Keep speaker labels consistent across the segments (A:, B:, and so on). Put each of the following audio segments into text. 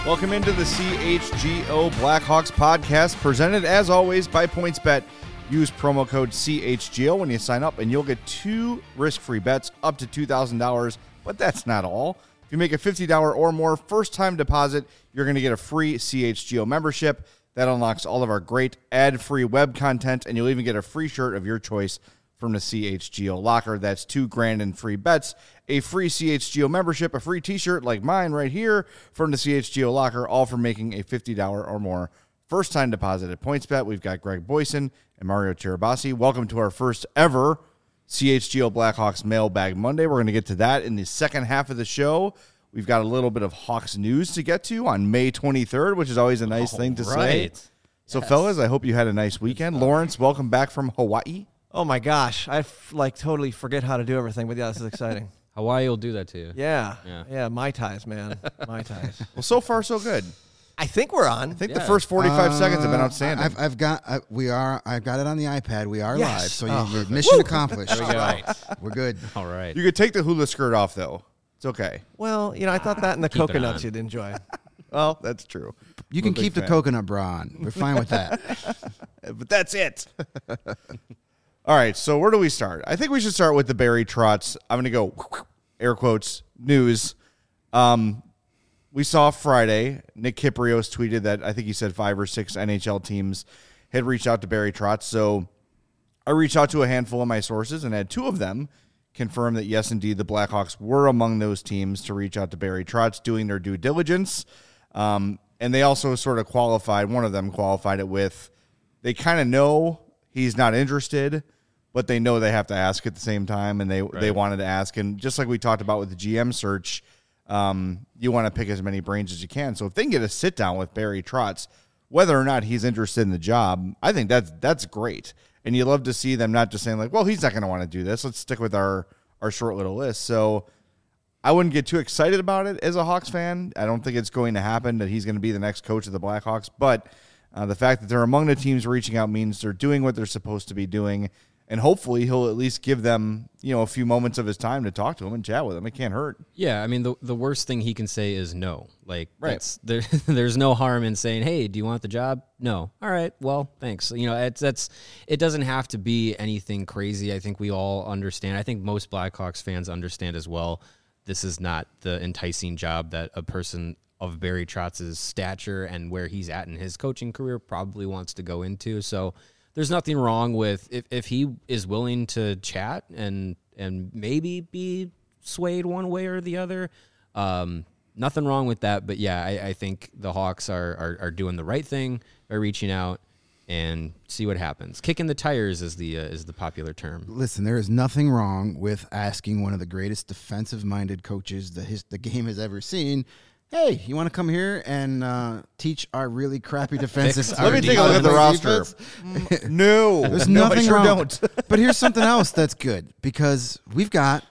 A: Welcome into the CHGO Blackhawks podcast, presented as always by PointsBet. Use promo code CHGO when you sign up, and you'll get 2 risk-free bets up to $2,000. But that's not all. If you make a $50 or more first-time deposit, you're going to get a free CHGO membership. That unlocks all of our great ad-free web content, and you'll even get a free shirt of your choice from the CHGO locker. That's $2,000 in free bets, a free CHGO membership, a free t-shirt like mine right here from the CHGO locker, all for making a $50 or more first-time deposit at PointsBet. We've got Greg Boyson and Mario Cherabassi. Welcome to our first ever CHGO Blackhawks Mailbag Monday. We're going to get to that in the second half of the show. We've got a little bit of Hawks news to get to on May 23rd, which is always a nice thing to say. So, fellas, I hope you had a nice weekend. Lawrence, welcome back from Hawaii.
B: Oh, my gosh. I totally forget how to do everything, but yeah, this is exciting.
C: Hawaii will do that to you.
B: Yeah, Mai Tais, man. Mai Tais.
A: Well, so far, so good.
B: I think we're on.
A: I think the first 45 seconds have been outstanding.
D: I've got it on the iPad. We are
B: Yes.
D: live, so your mission accomplished.
C: There we go.
D: We're good.
C: All right.
A: You could take the hula skirt off, though. It's okay.
B: Well, I thought that and the
C: Keep it
B: coconuts
C: on.
B: you'd enjoy.
A: Well, that's true.
D: You
A: I'm
D: can
A: a big
D: keep the
A: fan.
D: coconut bra on. We're fine with that.
A: But that's it. All right, so where do we start? I think we should start with the Barry Trotz. I'm going to go, air quotes, news. We saw Friday, Nick Kypreos tweeted that I think he said 5 or 6 NHL teams had reached out to Barry Trotz. So I reached out to a handful of my sources and had 2 of them confirm that, yes, indeed, the Blackhawks were among those teams to reach out to Barry Trotz, doing their due diligence. And they also sort of qualified, one of them qualified it with, they kind of know he's not interested, but they know they have to ask at the same time, and they wanted to ask. And just like we talked about with the GM search, you want to pick as many brains as you can. So if they can get a sit-down with Barry Trotz, whether or not he's interested in the job, I think that's great. And you love to see them not just saying, like, well, he's not going to want to do this. Let's stick with our short little list. So I wouldn't get too excited about it as a Hawks fan. I don't think it's going to happen that he's going to be the next coach of the Blackhawks. But the fact that they're among the teams reaching out means they're doing what they're supposed to be doing. And hopefully he'll at least give them, a few moments of his time to talk to him and chat with him. It can't hurt.
C: Yeah, I mean, the worst thing he can say is no. Like,
A: Right.
C: There's no harm in saying, hey, do you want the job? No. All right, well, thanks. It doesn't have to be anything crazy. I think we all understand. I think most Blackhawks fans understand as well. This is not the enticing job that a person of Barry Trotz's stature and where he's at in his coaching career probably wants to go into. So there's nothing wrong with if he is willing to chat and maybe be swayed one way or the other. Nothing wrong with that. But yeah, I think the Hawks are doing the right thing by reaching out and see what happens. Kicking the tires is the popular term.
D: Listen, there is nothing wrong with asking one of the greatest defensive-minded coaches the game has ever seen, hey, you want to come here and teach our really crappy defensive?
A: Let me take a look at the roster. No.
D: There's
A: No,
D: nothing
A: I sure
D: wrong.
A: don't.
D: But here's something else that's good, because we've got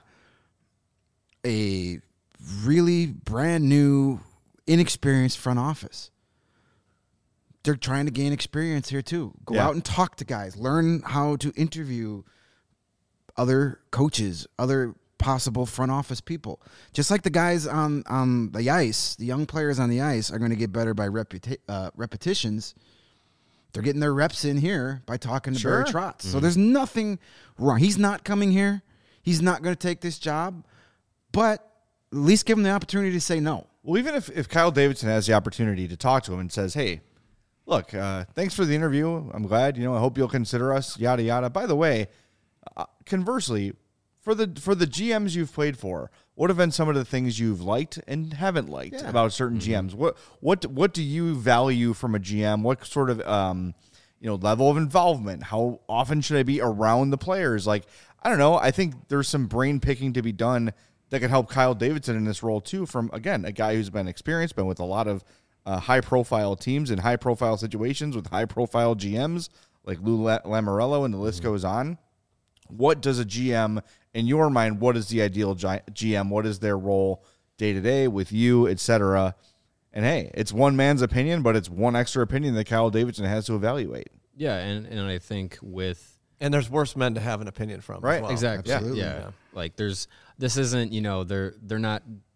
D: a really brand new, inexperienced front office. They're trying to gain experience here too. Go out and talk to guys. Learn how to interview other coaches, other possible front office people. Just like the guys on the ice, the young players on the ice are going to get better by repetitions. They're getting their reps in here by talking to Barry Trotz. So there's nothing wrong. He's not coming here. He's not going to take this job. But at least give him the opportunity to say no.
A: Well, even if Kyle Davidson has the opportunity to talk to him and says, hey, look, thanks for the interview. I'm glad. I hope you'll consider us, yada, yada. By the way, conversely, for the GMs you've played for, what have been some of the things you've liked and haven't liked about certain GMs? What do you value from a GM? What sort of level of involvement? How often should I be around the players? Like, I don't know. I think there's some brain picking to be done that could help Kyle Davidson in this role too. From, again, a guy who's been experienced, been with a lot of high-profile teams in high-profile situations with high-profile GMs like Lou Lamoriello, and the list goes on. What does a GM, in your mind, what is the ideal GM? What is their role day-to-day with you, et cetera? And, hey, it's one man's opinion, but it's one extra opinion that Kyle Davidson has to evaluate.
C: Yeah, and I think with...
B: And there's worse men to have an opinion from.
A: Right,
B: as well.
C: Exactly.
D: Absolutely.
C: Yeah. Like this isn't, they're not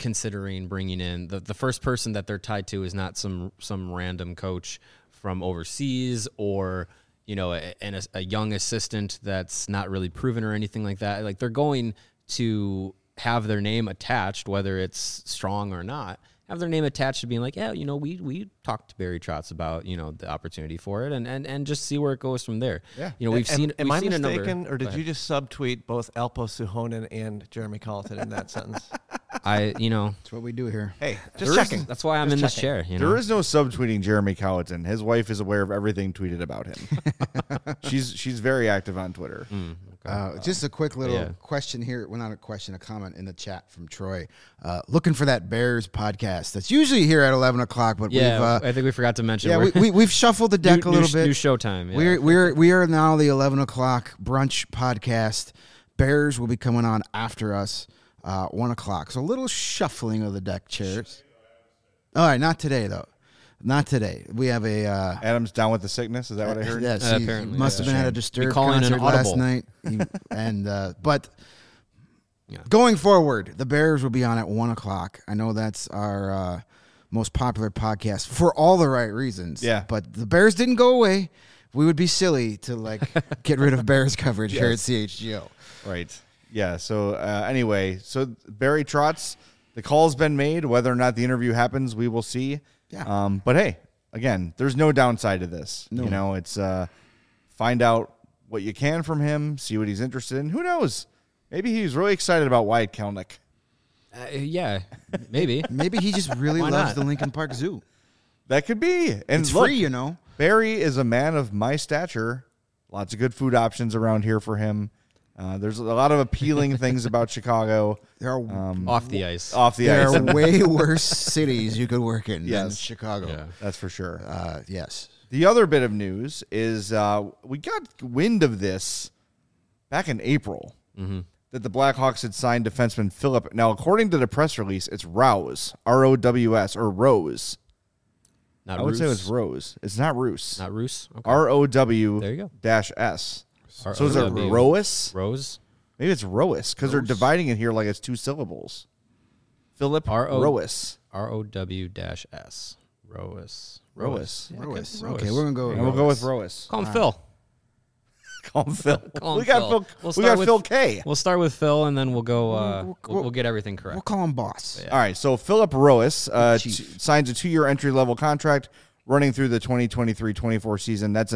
C: considering bringing in the first person that they're tied to is not some random coach from overseas or a young assistant that's not really proven or anything like that. Like they're going to have their name attached, whether it's strong or not. Have their name attached to being like, yeah, we talked to Barry Trotz about the opportunity for it, and just see where it goes from there.
A: Yeah,
C: we've seen.
B: Am I
C: seen
B: mistaken, or did
C: Go
B: you just subtweet both Alpo Suhonen and Jeremy Colleton in that sentence?
D: That's what we do here.
B: Hey, just checking.
C: That's why I'm in this chair.
A: There is no subtweeting Jeremy Colleton. His wife is aware of everything tweeted about him. she's very active on Twitter.
D: Just a quick little question here. Well, not a question, a comment in the chat from Troy. Looking for that Bears podcast. That's usually here at 11 o'clock, but
C: I think we forgot to mention.
D: Yeah, we've shuffled the deck a little bit.
C: New showtime. Yeah.
D: We are now the 11 o'clock brunch podcast. Bears will be coming on after us, 1 o'clock. So a little shuffling of the deck chairs. All right, not today though. Not today. We have a
A: Adam's down with the sickness. Is that what I heard?
D: Yes,
C: apparently.
D: Must have been at a disturbed
C: calling
D: concert
C: an audible.
D: last night. But going forward, the Bears will be on at 1 o'clock. I know that's our most popular podcast for all the right reasons.
A: Yeah.
D: But the Bears didn't go away. We would be silly to get rid of Bears coverage here at CHGO.
A: Right. Yeah. So anyway, so Barry Trotz, the call's been made. Whether or not the interview happens, we will see.
D: Yeah.
A: But hey, again, there's no downside to this.
D: No.
A: It's find out what you can from him, see what he's interested in. Who knows? Maybe he's really excited about Wyatt Kelnick.
C: Yeah, maybe.
D: Maybe he just really
C: Why
D: loves
C: not?
D: the Lincoln Park Zoo.
A: That could be. And
D: It's
A: look,
D: free,
A: Barry is a man of my stature. Lots of good food options around here for him. There's a lot of appealing things about Chicago.
D: There are
C: Off the ice.
A: Off the
D: there
A: ice.
D: are way worse cities you could work in than
A: Yes.
D: Chicago.
C: Yeah.
A: That's for sure.
D: Yes.
A: The other bit of news is we got wind of this back in April that the Blackhawks had signed defenseman Philip. Now, according to the press release, it's Rouse, R-O-W-S, or Rose.
C: Not
A: I would say
C: Roos.
A: it's Rose. It's not Roos.
C: Not Roos. Okay.
A: R-O-W
C: There you go.
A: dash S. So is it
C: R-O-W.
A: Roas?
C: Rose.
A: Maybe it's Roas because they're dividing it here like it's two syllables. Philip Roas.
C: R-O-W-S. Roas.
A: Roas.
D: Roas.
C: Roas.
D: Okay, we're going to go
A: And we'll go with Roas.
C: Call him Phil.
A: Call him Phil.
C: Call him
A: we got
C: Phil.
A: Phil.
C: We'll
A: we
C: start
A: got
C: with-
A: Phil K.
C: We'll start with Phil, and then we'll go. We'll get everything correct.
D: We'll call him boss.
A: All right, so Philip Roas
D: Chief.
A: signs a 2-year entry-level contract running through the 2023-24 season. That's a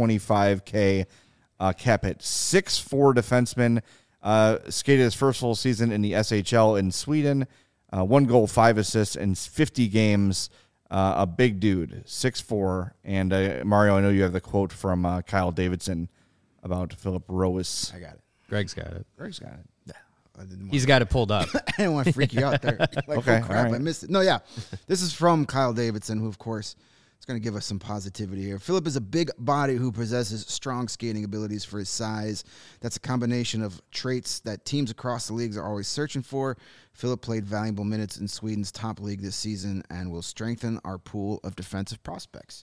A: $925K cap hit. 6'4" defenseman, skated his first full season in the SHL in Sweden. 1 goal, 5 assists in 50 games. A big dude, 6'4". And Mario, I know you have the quote from Kyle Davidson about Philip Roas.
D: I got it.
C: Greg's got it.
A: Greg's got it.
D: I didn't
C: He's got it pulled up.
D: I didn't want to freak you out there. Like,
A: Okay,
D: oh, crap,
A: all right.
D: I missed it. No, yeah. This is from Kyle Davidson, who, of course, is going to give us some positivity here. Philip is a big body who possesses strong skating abilities for his size. That's a combination of traits that teams across the leagues are always searching for. Philip played valuable minutes in Sweden's top league this season and will strengthen our pool of defensive prospects.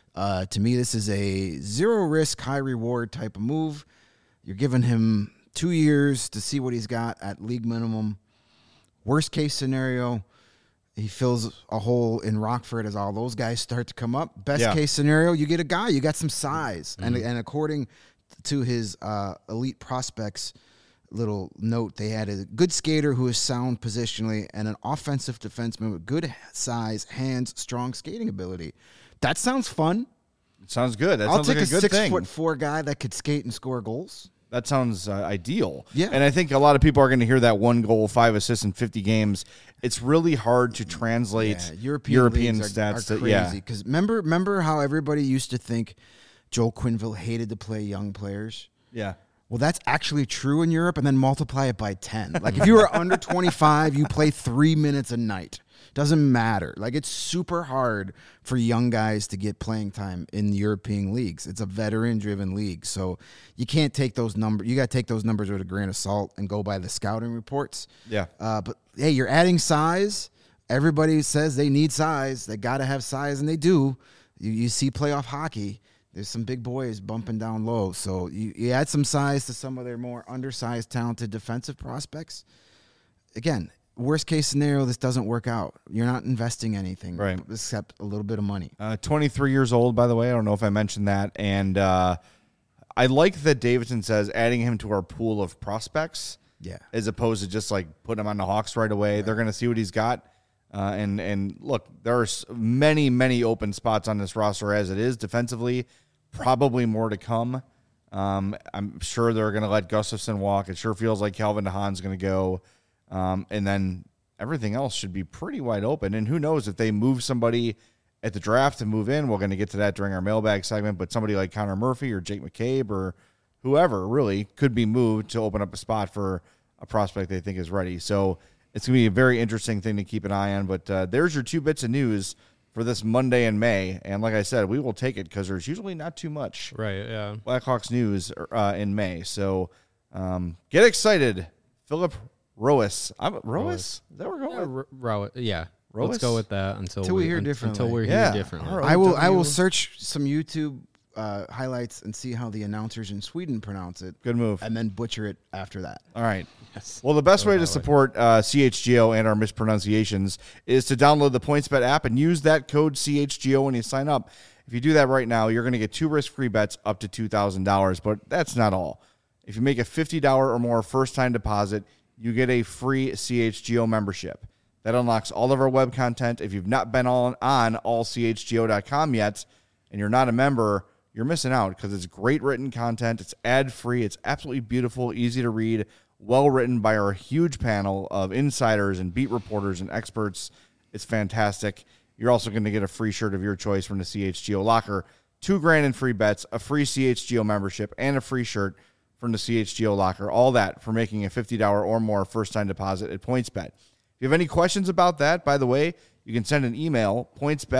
D: To me, this is a zero-risk, high-reward type of move. You're giving him 2 years to see what he's got at league minimum. Worst case scenario, he fills a hole in Rockford as all those guys start to come up. Best case scenario, you get a guy, you got some size. And according to his elite prospects little note, they had a good skater who is sound positionally and an offensive defenseman with good size, hands, strong skating ability. That sounds fun.
A: Sounds good. That
D: I'll
A: sounds
D: take
A: like a
D: a
A: good thing.
D: 6'4" guy that could skate and score goals.
A: That sounds ideal.
D: Yeah.
A: And I think a lot of people are going to hear that 1 goal, 5 assists in 50 games. It's really hard to translate European
D: leagues
A: stats.
D: are crazy. Because remember how everybody used to think Joel Quenneville hated to play young players?
A: Yeah.
D: Well, that's actually true in Europe, and then multiply it by 10. Like, if you were under 25, you play 3 minutes a night. Doesn't matter. Like, it's super hard for young guys to get playing time in European leagues. It's a veteran-driven league, so you can't take those numbers. You got to take those numbers with a grain of salt and go by the scouting reports.
A: Yeah.
D: But, hey, you're adding size. Everybody says they need size. They got to have size, and they do. You see playoff hockey. There's some big boys bumping down low. So you add some size to some of their more undersized, talented defensive prospects. Again, worst case scenario, this doesn't work out. You're not investing anything,
A: Right.
D: except a little bit of money.
A: 23 years old, by the way. I don't know if I mentioned that. And I like that Davidson says adding him to our pool of prospects,
D: Yeah.
A: as opposed to just like putting him on the Hawks right away. They're going to see what he's got. And look, there's many open spots on this roster as it is defensively. Probably more to come. I'm sure they're going to let Gustafson walk. It sure feels like Calvin DeHaan's going to go. And then everything else should be pretty wide open. And who knows if they move somebody at the draft to move in. We're going to get to that during our mailbag segment. But somebody like Connor Murphy or Jake McCabe or whoever really could be moved to open up a spot for a prospect they think is ready. So it's going to be a very interesting thing to keep an eye on. But there's your 2 bits of news for this Monday in May. And like I said, we will take it because there's usually not too much
C: Right, yeah.
A: Blackhawks news in May. So get excited. Philip Roas. Roas? Is that where we're going?
C: Yeah.
A: Roas?
C: Let's go with that until
D: we hear differently.
C: Until we're
A: Yeah.
C: here differently.
A: All right.
D: I will search some YouTube highlights and see how the announcers in Sweden pronounce it.
A: Good move.
D: And then butcher it after that.
A: All right.
C: Yes.
A: Well, the best
C: Go
A: way
C: that
A: to
C: way.
A: support CHGO and our mispronunciations is to download the PointsBet app and use that code CHGO when you sign up. If you do that right now, you're going to get 2 risk-free bets up to $2,000. But that's not all. If you make a $50 or more first-time deposit, you get a free CHGO membership. That unlocks all of our web content. If you've not been on allchgo.com yet and you're not a member, you're missing out because it's great written content. It's ad-free. It's absolutely beautiful, easy to read, well written by our huge panel of insiders and beat reporters and experts. It's fantastic. You're also going to get a free shirt of your choice from the CHGO locker, $2,000 in free bets, a free CHGO membership, and a free shirt from the CHGO locker. All that for making a $50 or more first-time deposit at PointsBet. If you have any questions about that, by the way, you can send an email,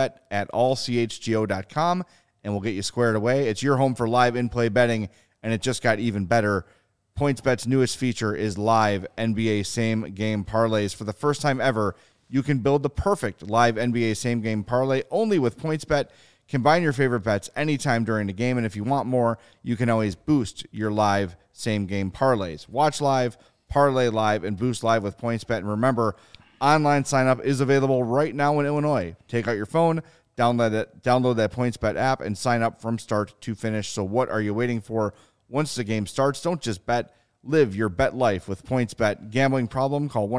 A: pointsbet@allchgo.com, and we'll get you squared away. It's your home for live in-play betting, and it just got even better. PointsBet's newest feature is live NBA same-game parlays. For the first time ever, you can build the perfect live NBA same-game parlay only with PointsBet. Combine your favorite bets anytime during the game, and if you want more, you can always boost your live same-game parlays. Watch live, parlay live, and boost live with PointsBet. And remember, online sign-up is available right now in Illinois. Take out your phone, download that PointsBet app, and sign up from start to finish. So what are you waiting for? Once the game starts, don't just bet. Live your bet life with PointsBet. Gambling problem? Call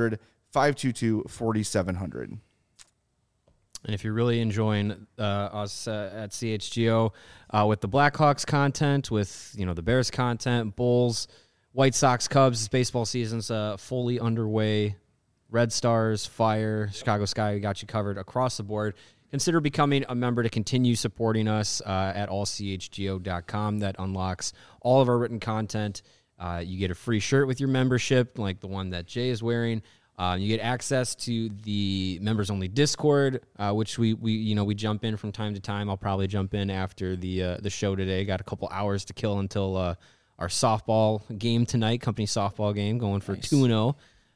A: 1-800-522-4700.
C: And if you're really enjoying us at CHGO with the Blackhawks content, with the Bears content, Bulls, White Sox, Cubs, baseball season's fully underway. Red Stars, Fire, Chicago Sky, we got you covered across the board. Consider becoming a member to continue supporting us at allchgo.com. That unlocks all of our written content. You get a free shirt with your membership, like the one that Jay is wearing. You get access to the members-only Discord, which we jump in from time to time. I'll probably jump in after the show today. Got a couple hours to kill until our softball game tonight, company softball game, going for 2-0.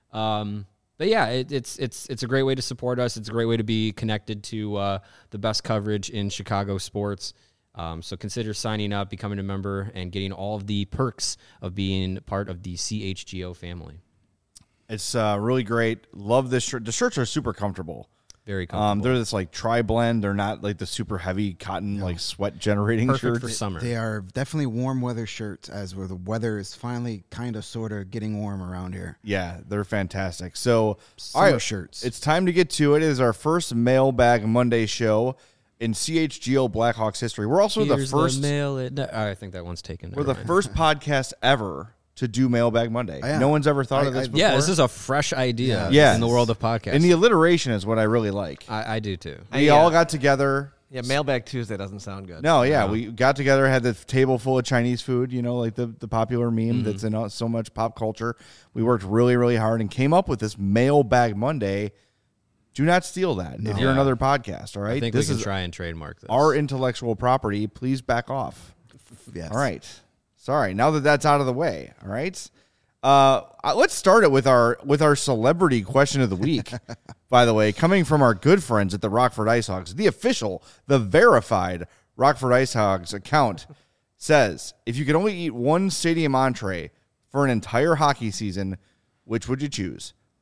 C: But yeah, it's a great way to support us. It's a great way to be connected to the best coverage in Chicago sports. So consider signing up, becoming a member, and getting all of the perks of being part of the CHGO family.
A: It's really great. Love this shirt. The shirts are super comfortable.
C: Very comfortable.
A: They're this like tri-blend. They're not like the super heavy cotton, like sweat generating
C: Perfect
A: shirts.
C: for summer.
D: They are definitely warm weather shirts, as where the weather is finally kind of sort of getting warm around here.
A: Yeah, they're fantastic. So,
D: Summer
A: all right,
D: shirts.
A: It's time to get to it. It is our first Mailbag Monday show in CHGO Blackhawks history. We're also
C: Here's
A: the first.
C: I think that one's taken.
A: We're the first podcast ever to do Mailbag Monday.
D: Yeah.
A: No one's ever thought of this before.
C: Yeah, this is a fresh idea
A: Yes.
C: in the world of podcasts.
A: And the alliteration is what I really like.
C: I do too.
A: We all got together.
B: Yeah, Mailbag Tuesday doesn't sound good.
A: No, yeah, we got together, had the table full of Chinese food, like the popular meme that's in so much pop culture. We worked really, really hard and came up with this Mailbag Monday. Do not steal that if you're
C: Yeah.
A: another podcast, all right?
C: I think
A: This
C: we can
A: is
C: try and trademark this.
A: our intellectual property. Please back off.
D: Yes.
A: All right. Sorry. Now that that's out of the way, all right? Let's start it with our celebrity question of the week. By the way, coming from our good friends at the Rockford Ice Hogs, the verified Rockford Ice Hogs account says, if you could only eat one stadium entree for an entire hockey season, which would you choose?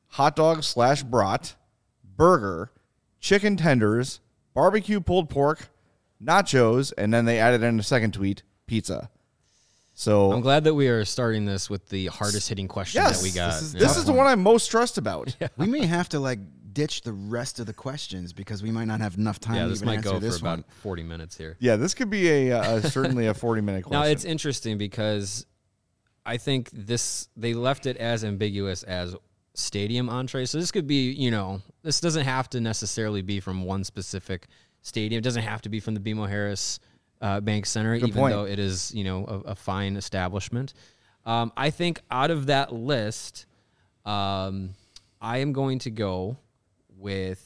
A: hot dog / brat, burger, chicken tenders, barbecue pulled pork, nachos, and then they added in a second tweet, pizza. So
C: I'm glad that we are starting this with the hardest hitting question
A: yes,
C: that we got.
A: This is the one I'm most stressed about.
D: We may have to like ditch the rest of the questions because we might not have enough time.
C: Yeah,
D: to
C: this
D: even
C: might
D: answer
C: go
D: this
C: for about
D: one.
C: 40 minutes here.
A: Yeah, this could be certainly a 40-minute question.
C: Now, it's interesting because I think they left it as ambiguous as stadium entrees. So this could be, this doesn't have to necessarily be from one specific stadium. It doesn't have to be from the BMO Harris Bank Center,
A: Good
C: even
A: point.
C: though it is, a fine establishment. I think out of that list, I am going to go with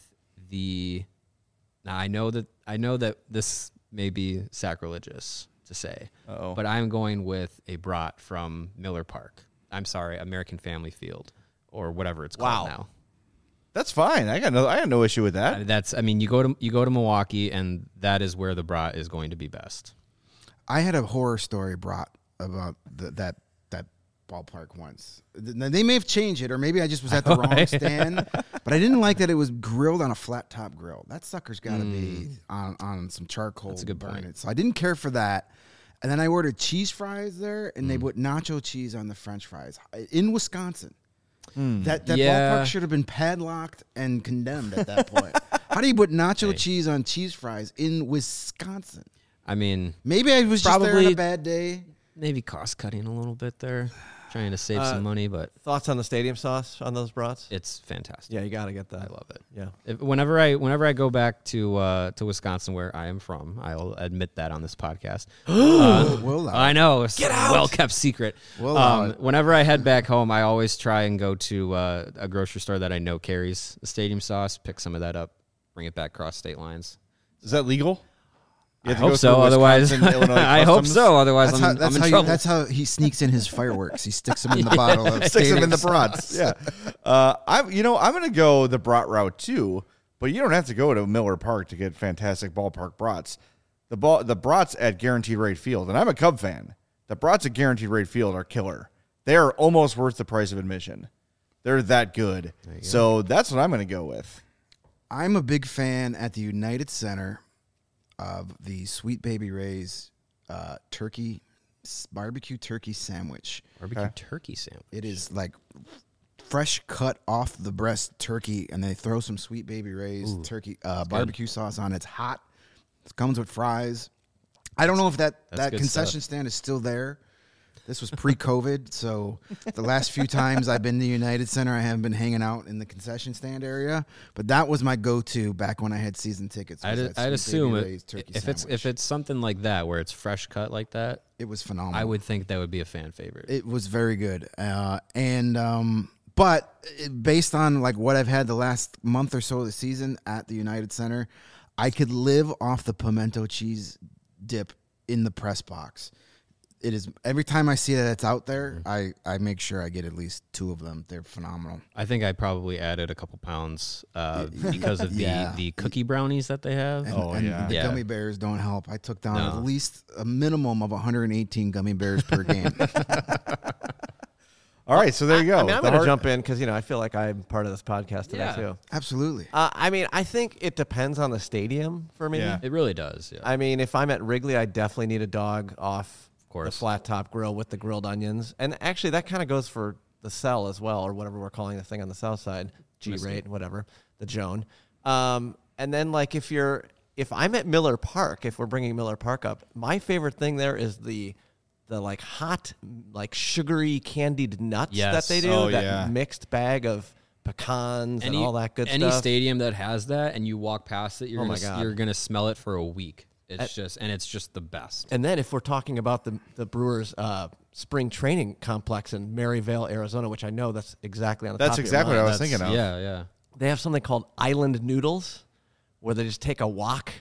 C: now I know that this may be sacrilegious to say, but I'm going with a brat from Miller Park. I'm sorry, American Family Field or whatever it's called now.
A: That's fine. I got no issue with that.
C: You go to Milwaukee, and that is where the brat is going to be best.
D: I had a horror story brought about that ballpark once. They may have changed it, or maybe I just was at the wrong stand. But I didn't like that it was grilled on a flat top grill. That sucker's got to be on some charcoal.
C: That's a good point.
D: It. So I didn't care for that. And then I ordered cheese fries there, and they put nacho cheese on the French fries in Wisconsin. That ballpark should have been padlocked and condemned at that point. How do you put nacho cheese on cheese fries in Wisconsin?
C: I mean,
D: Maybe I was just there on a bad day.
C: Maybe cost cutting a little bit there, trying to save some money, but
B: Thoughts on the stadium sauce on those brats?
C: it's fantastic.
B: Yeah, you got to get that.
C: I love it.
B: Yeah.
C: Whenever I go back to Wisconsin, where I am from, I'll admit that on this podcast.
D: We'll
C: I know, it's a well-kept secret.
D: We'll allow it.
C: Whenever I head back home, I always try and go to a grocery store that I know carries the stadium sauce, pick some of that up, bring it back across state lines.
A: Is that legal? You
C: I
A: have to go
C: hope so.
A: through
C: Otherwise,
A: Wisconsin, Illinois
C: I hope
A: customs?
C: so. Otherwise, I'm in trouble.
D: That's how he sneaks in his fireworks. He sticks them in the bottle of
A: Sticks them in the
D: stadium
A: brats. Yeah. I'm going to go the brat route too, but you don't have to go to Miller Park to get fantastic ballpark brats. The brats at Guaranteed Rate Field, and I'm a Cub fan. The brats at Guaranteed Rate Field are killer. They are almost worth the price of admission. They're that good. So that's what I'm going to go with.
D: I'm a big fan at the United Center of the Sweet Baby Ray's barbecue turkey sandwich.
C: Barbecue turkey sandwich.
D: It is like fresh cut off the breast turkey, and they throw some Sweet Baby Ray's turkey barbecue sauce on it. It's hot. It comes with fries. I don't know if that
C: good
D: concession stand is still there. This was pre-COVID, so the last few times I've been to United Center, I haven't been hanging out in the concession stand area. But that was my go-to back when I had season tickets.
C: I'd assume if it's something like that where it's fresh cut like that,
D: it was phenomenal.
C: I would think that would be a fan favorite.
D: It was very good, but based on like what I've had the last month or so of the season at the United Center, I could live off the pimento cheese dip in the press box. It is every time I see that it's out there, I make sure I get at least 2 of them. They're phenomenal.
C: I think I probably added a couple pounds because of the cookie brownies that they have.
D: And the gummy bears don't help. I took down at least a minimum of 118 gummy bears per game.
A: All right, so there you go.
B: I mean, I'm going to jump in because, I feel like I'm part of this podcast today, too.
D: Absolutely.
B: I mean, I think it depends on the stadium for me.
A: Yeah.
C: It really does. Yeah.
B: I mean, if I'm at Wrigley, I definitely need a dog off the
C: course.
B: flat top grill with the grilled onions. And actually, that kind of goes for the cell as well, or whatever we're calling the thing on the south side, G-rate, whatever, the Joan. And then, like, if I'm at Miller Park, if we're bringing Miller Park up, my favorite thing there is the like hot, like sugary candied nuts that they do. Mixed bag of pecans and all that good stuff.
C: Any stadium that has that and you walk past it, you're
B: God.
C: you're gonna smell it for a week. It's just the best.
B: And then if we're talking about the Brewers spring training complex in Maryvale, Arizona, which I know that's exactly on the top
A: That's
B: of your
A: exactly
B: mind.
A: what I was thinking of.
C: Yeah.
B: They have something called island noodles, where they just take a wok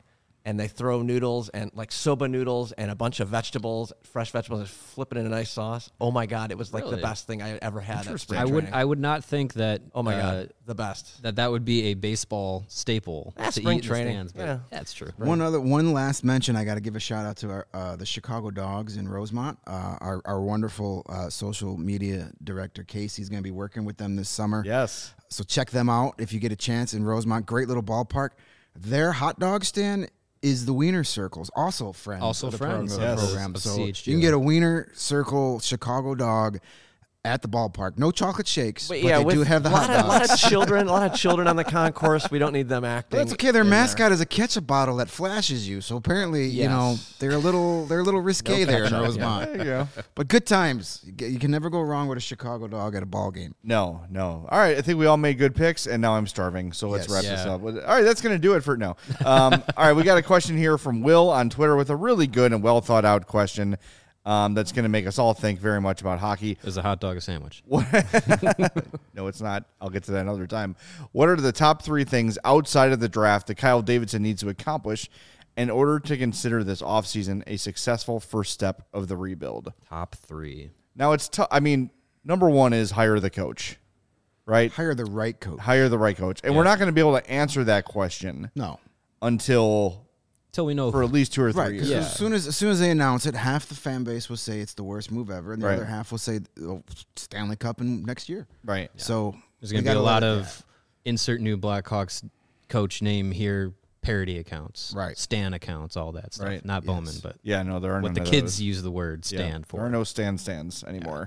B: and they throw noodles and like soba noodles and a bunch of vegetables, fresh vegetables, and flip it in a nice sauce. Oh my God, it was like the
C: Really?
B: best thing I ever had at spring
C: I
B: training.
C: would not think that.
B: Oh my God, the best.
C: that would be a baseball staple
B: That's
C: to
B: spring
C: eat
B: training.
C: in the stands. But
B: Yeah.
C: that's true.
D: One last mention. I got to give a shout out to the Chicago Dogs in Rosemont. Our wonderful social media director Casey's going to be working with them this summer.
A: Yes.
D: So check them out if you get a chance in Rosemont. Great little ballpark. Their hot dog stand is the Wiener Circles, also friends.
C: Also
D: of the
C: friends,
D: program.
A: yes,
D: program.
C: of
D: So
C: CHGO.
D: you can get a Wiener Circle Chicago dog at the ballpark. No chocolate shakes, but they do have the hot dogs.
B: A lot of children on the concourse. We don't need them acting.
D: That's okay. Their
B: in
D: mascot is a ketchup bottle that flashes you. So apparently, you know,
B: Yes.
D: they're a little risque there in
B: ketchup,
D: Rosemont.
A: There you go.
D: But good times. You can never go wrong with a Chicago dog at a ball game.
A: No. All right, I think we all made good picks, and now I'm starving. So let's
D: Yes.
A: wrap this
C: Yeah.
A: up. All right, that's going to do it for now. All right, we got a question here from Will on Twitter with a really good and well thought out question that's going to make us all think very much about hockey.
C: Is a hot dog a sandwich?
A: No, it's not. I'll get to that another time. What are the top 3 things outside of the draft that Kyle Davidson needs to accomplish in order to consider this offseason a successful first step of the rebuild?
C: Top 3.
A: Now, it's tough. I mean, number 1 is hire the coach, right?
D: Hire the right coach.
A: Hire the right coach. And we're not going to be able to answer that question
D: No.
A: until
C: Till we know.
A: for at least 2 or 3
D: Right, because
A: years.
D: as soon as they announce it, half the fan base will say it's the worst move ever, and the
A: Right.
D: other half will say Stanley Cup in next year.
A: Right.
D: So
C: There's going to be a lot of insert new Blackhawks coach name here parody accounts.
D: Right.
C: Stan accounts, all that stuff.
A: Right.
C: Not
D: Yes.
C: Bowman, but
A: Yeah, no, there are
C: what
A: none
C: the
A: of
C: kids
A: those.
C: use the word
A: Yeah,
C: stand for.
A: There are no stands anymore.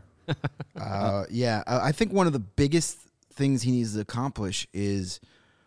D: I think one of the biggest things he needs to accomplish is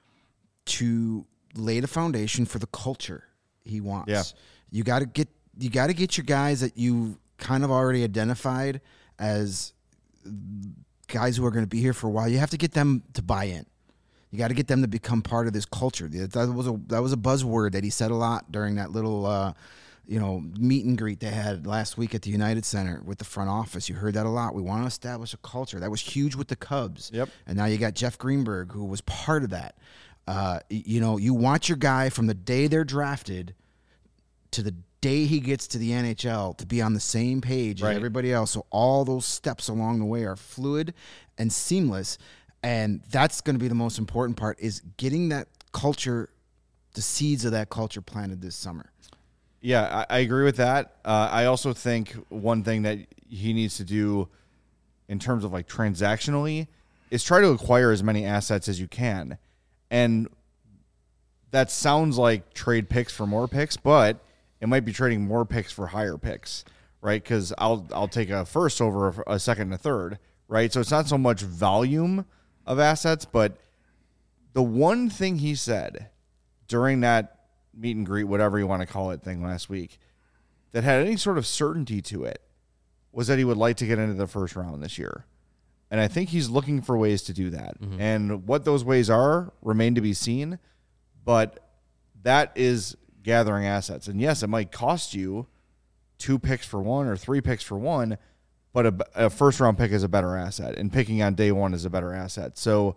D: to lay the foundation for the culture he wants.
A: Yeah.
D: You got to get your guys that you kind of already identified as guys who are going to be here for a while. You have to get them to buy in. You got to get them to become part of this culture. That was a buzzword that he said a lot during that little meet and greet they had last week at the United Center with the front office. You heard that a lot. We want to establish a culture. That was huge with the Cubs.
A: Yep.
D: And now you got Jeff Greenberg, who was part of that. You want your guy from the day they're drafted to the day he gets to the NHL to be on the same page
A: Right.
D: as everybody else. So all those steps along the way are fluid and seamless. And that's going to be the most important part, is getting that culture, the seeds of that culture planted this summer.
A: Yeah, I agree with that. I also think one thing that he needs to do in terms of like transactionally is try to acquire as many assets as you can. And that sounds like trade picks for more picks, but it might be trading more picks for higher picks, right? Because I'll take a first over a second and a third, right? So it's not so much volume of assets, but the one thing he said during that meet and greet, whatever you want to call it, thing last week, that had any sort of certainty to it was that he would like to get into the first round this year. And I think he's looking for ways to do that.
C: Mm-hmm.
A: And what those ways are remain to be seen, but that is gathering assets. And yes, it might cost you 2 picks for 1 or 3 picks for 1, but a first round pick is a better asset, and picking on day 1 is a better asset. So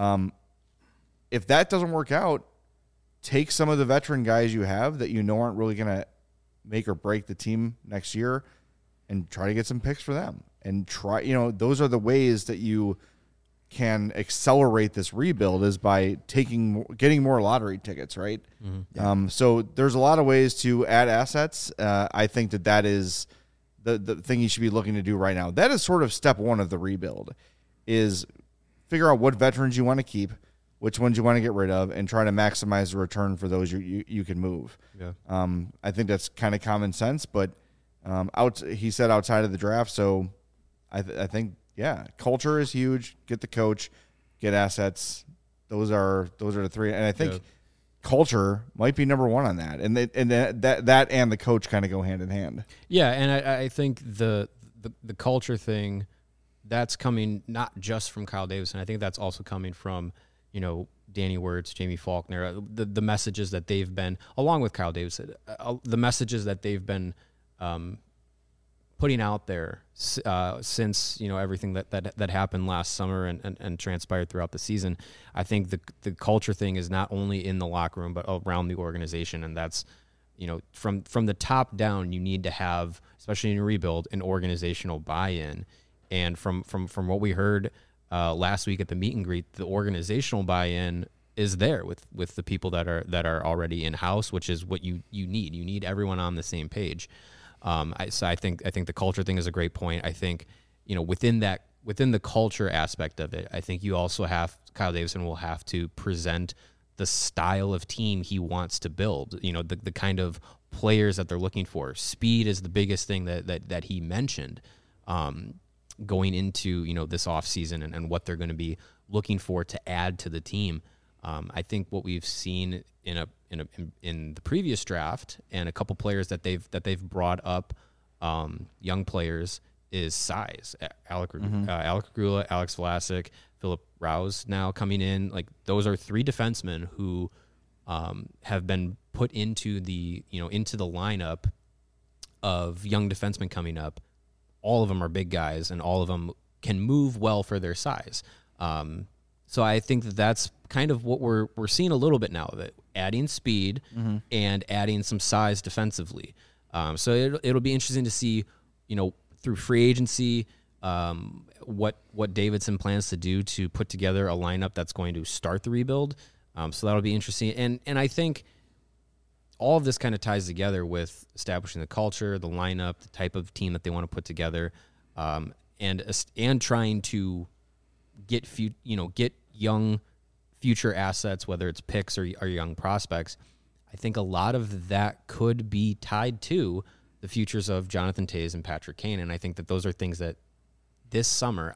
A: if that doesn't work out, take some of the veteran guys you have that you know aren't really going to make or break the team next year and try to get some picks for them. And try, those are the ways that you can accelerate this rebuild, is by getting more lottery tickets, right? Mm-hmm. So there's a lot of ways to add assets. I think that is the thing you should be looking to do right now. That is sort of step 1 of the rebuild, is figure out what veterans you want to keep, which ones you want to get rid of, and try to maximize the return for those you can move.
C: Yeah.
A: I think that's kind of common sense, but he said outside of the draft, so I think, yeah, culture is huge. Get the coach, get assets. Those are the 3, and I think culture might be number 1 on that, and that and the coach kind of go hand in hand.
C: Yeah, and I think the culture thing, that's coming not just from Kyle Davidson. I think that's also coming from, Danny Wirtz, Jamie Faulkner, the messages that they've been, along with Kyle Davidson, the messages that they've been putting out there since everything that happened last summer and transpired throughout the season. I think the culture thing is not only in the locker room but around the organization, and that's from the top down. You need to have, especially in a rebuild, an organizational buy-in. And from what we heard last week at the meet and greet, the organizational buy-in is there with the people that are already in house, which is what you need. You need everyone on the same page. So I think the culture thing is a great point. I think within the culture aspect of it, I think you also have Kyle Davidson will have to present the style of team he wants to build. The kind of players that they're looking for. Speed is the biggest thing that he mentioned. Going into this offseason and what they're going to be looking for to add to the team. I think what we've seen in the previous draft and a couple players that they've brought up, young players, is size. Alec Regula, Alex Vlasic, Philip Rouse now coming in. Like, those are three defensemen who have been put into the lineup of young defensemen coming up. All of them are big guys, and all of them can move well for their size. So I think that's kind of what we're seeing a little bit now of it, adding speed and adding some size defensively. So it'll be interesting to see, through free agency, what Davidson plans to do to put together a lineup that's going to start the rebuild. So that'll be interesting. And I think all of this kind of ties together with establishing the culture, the lineup, the type of team that they want to put together, and trying to get young future assets, whether it's picks or young prospects. I think a lot of that could be tied to the futures of Jonathan Toews and Patrick Kane, and I think that those are things that this summer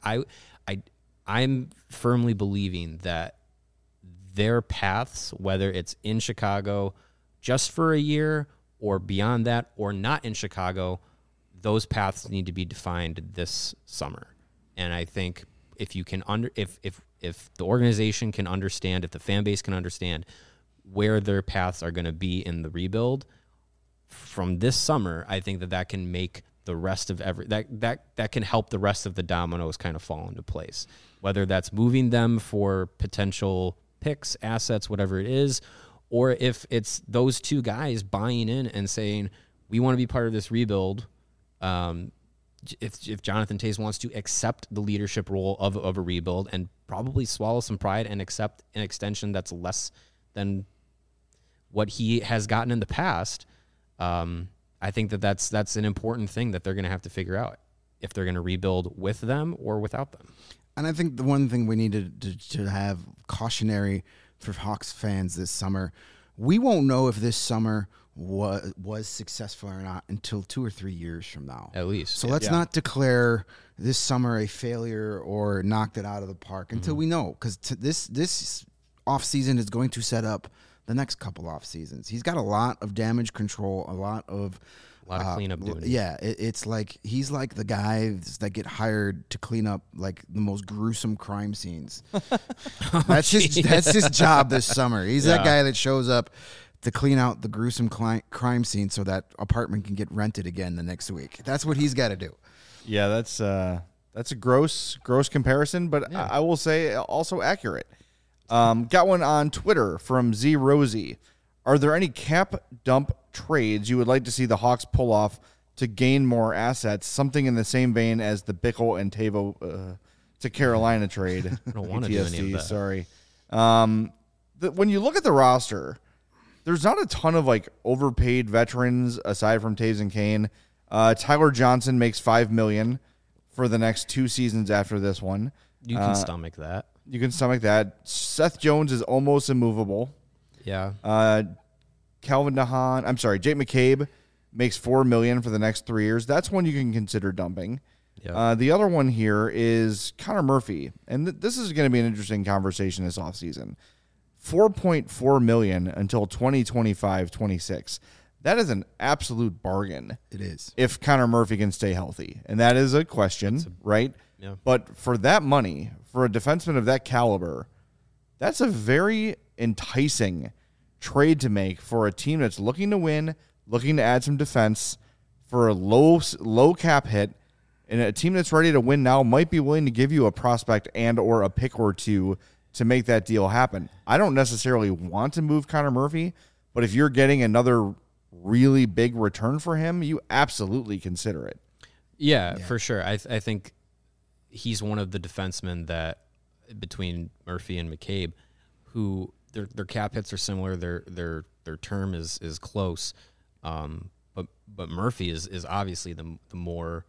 C: I'm firmly believing that their paths, whether it's in Chicago just for a year or beyond that, or not in Chicago, those paths need to be defined this summer. And I think if you can if the organization can understand, if the fan base can understand where their paths are going to be in the rebuild from this summer, I think that can make the rest of that can help the rest of the dominoes kind of fall into place. Whether that's moving them for potential picks, assets, whatever it is, or if it's those two guys buying in and saying, we want to be part of this rebuild. If Jonathan Toews wants to accept the leadership role of a rebuild and probably swallow some pride and accept an extension that's less than what he has gotten in the past, I think that's an important thing that they're going to have to figure out if they're going to rebuild with them or without them.
D: And I think the one thing we need to have cautionary for Hawks fans this summer, we won't know if this summer was successful or not until 2 or 3 years from now.
C: At least.
D: So let's not declare this summer a failure or knocked it out of the park until we know, because this offseason is going to set up the next couple off seasons. He's got a lot of damage control, a lot of
C: cleanup duty.
D: Yeah, it's like he's like the guys that get hired to clean up like the most gruesome crime scenes. That's his job this summer. He's that guy that shows up to clean out the gruesome crime scene so that apartment can get rented again the next week. That's what he's got to do.
A: Yeah, that's a gross comparison, but I will say also accurate. Got one on Twitter from Z Rosie. Are there any cap dump trades you would like to see the Hawks pull off to gain more assets? Something in the same vein as the Bickle and Tavo to Carolina trade.
C: I don't want to do any of that.
A: Sorry. When you look at the roster, there's not a ton of like overpaid veterans aside from Toews and Kane. Tyler Johnson makes $5 million for the next 2 seasons after this one.
C: You can stomach that.
A: You can stomach that. Seth Jones is almost immovable.
C: Yeah.
A: Calvin DeHaan, Jake McCabe makes $4 million for the next 3 years. That's one you can consider dumping.
C: Yeah.
A: The other one here is Connor Murphy, and this is going to be an interesting conversation this offseason. $4.4 million until 2025-26. That is an absolute bargain.
D: It is.
A: If Connor Murphy can stay healthy. And that is a question, right?
C: Yeah.
A: But for that money, for a defenseman of that caliber, that's a very enticing trade to make for a team that's looking to win, looking to add some defense. for a low cap hit, and a team that's ready to win now might be willing to give you a prospect and or a pick or two to make that deal happen. I don't necessarily want to move Connor Murphy, but if you're getting another really big return for him, you absolutely consider it.
C: Yeah, for sure. I think he's one of the defensemen that between Murphy and McCabe, who their cap hits are similar. Their term is close, but Murphy is obviously the more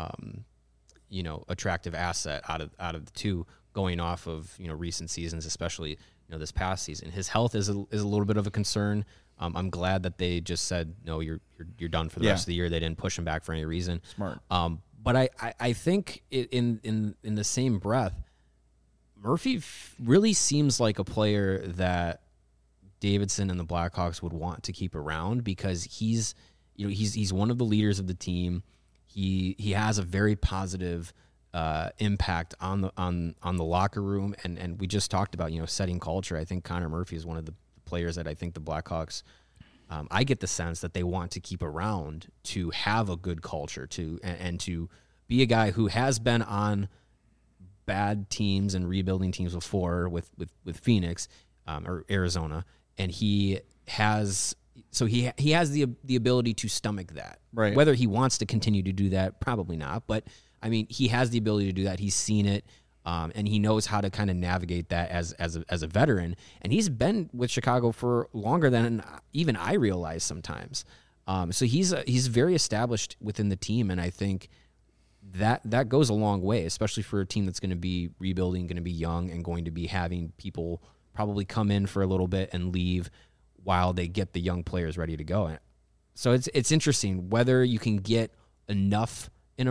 C: attractive asset out of the two, going off of recent seasons, especially this past season. His health is a little bit of a concern. I'm glad that they just said no, you're done for the rest of the year. They didn't push him back for any reason.
A: Smart.
C: But I think in the same breath, Murphy really seems like a player that Davidson and the Blackhawks would want to keep around, because he's one of the leaders of the team. He has a very positive impact on the locker room, and we just talked about setting culture. I think Connor Murphy is one of the players that I think the Blackhawks, I get the sense that they want to keep around to have a good culture and to be a guy who has been on bad teams and rebuilding teams before with Phoenix or Arizona, and he has the ability to stomach that.
A: Right.
C: Whether he wants to continue to do that, probably not, but I mean, he has the ability to do that. He's seen it. And he knows how to kind of navigate that as a veteran. And he's been with Chicago for longer than even I realize sometimes. So he's very established within the team, and I think that goes a long way, especially for a team that's going to be rebuilding, going to be young, and going to be having people probably come in for a little bit and leave while they get the young players ready to go. So it's interesting whether you can get enough in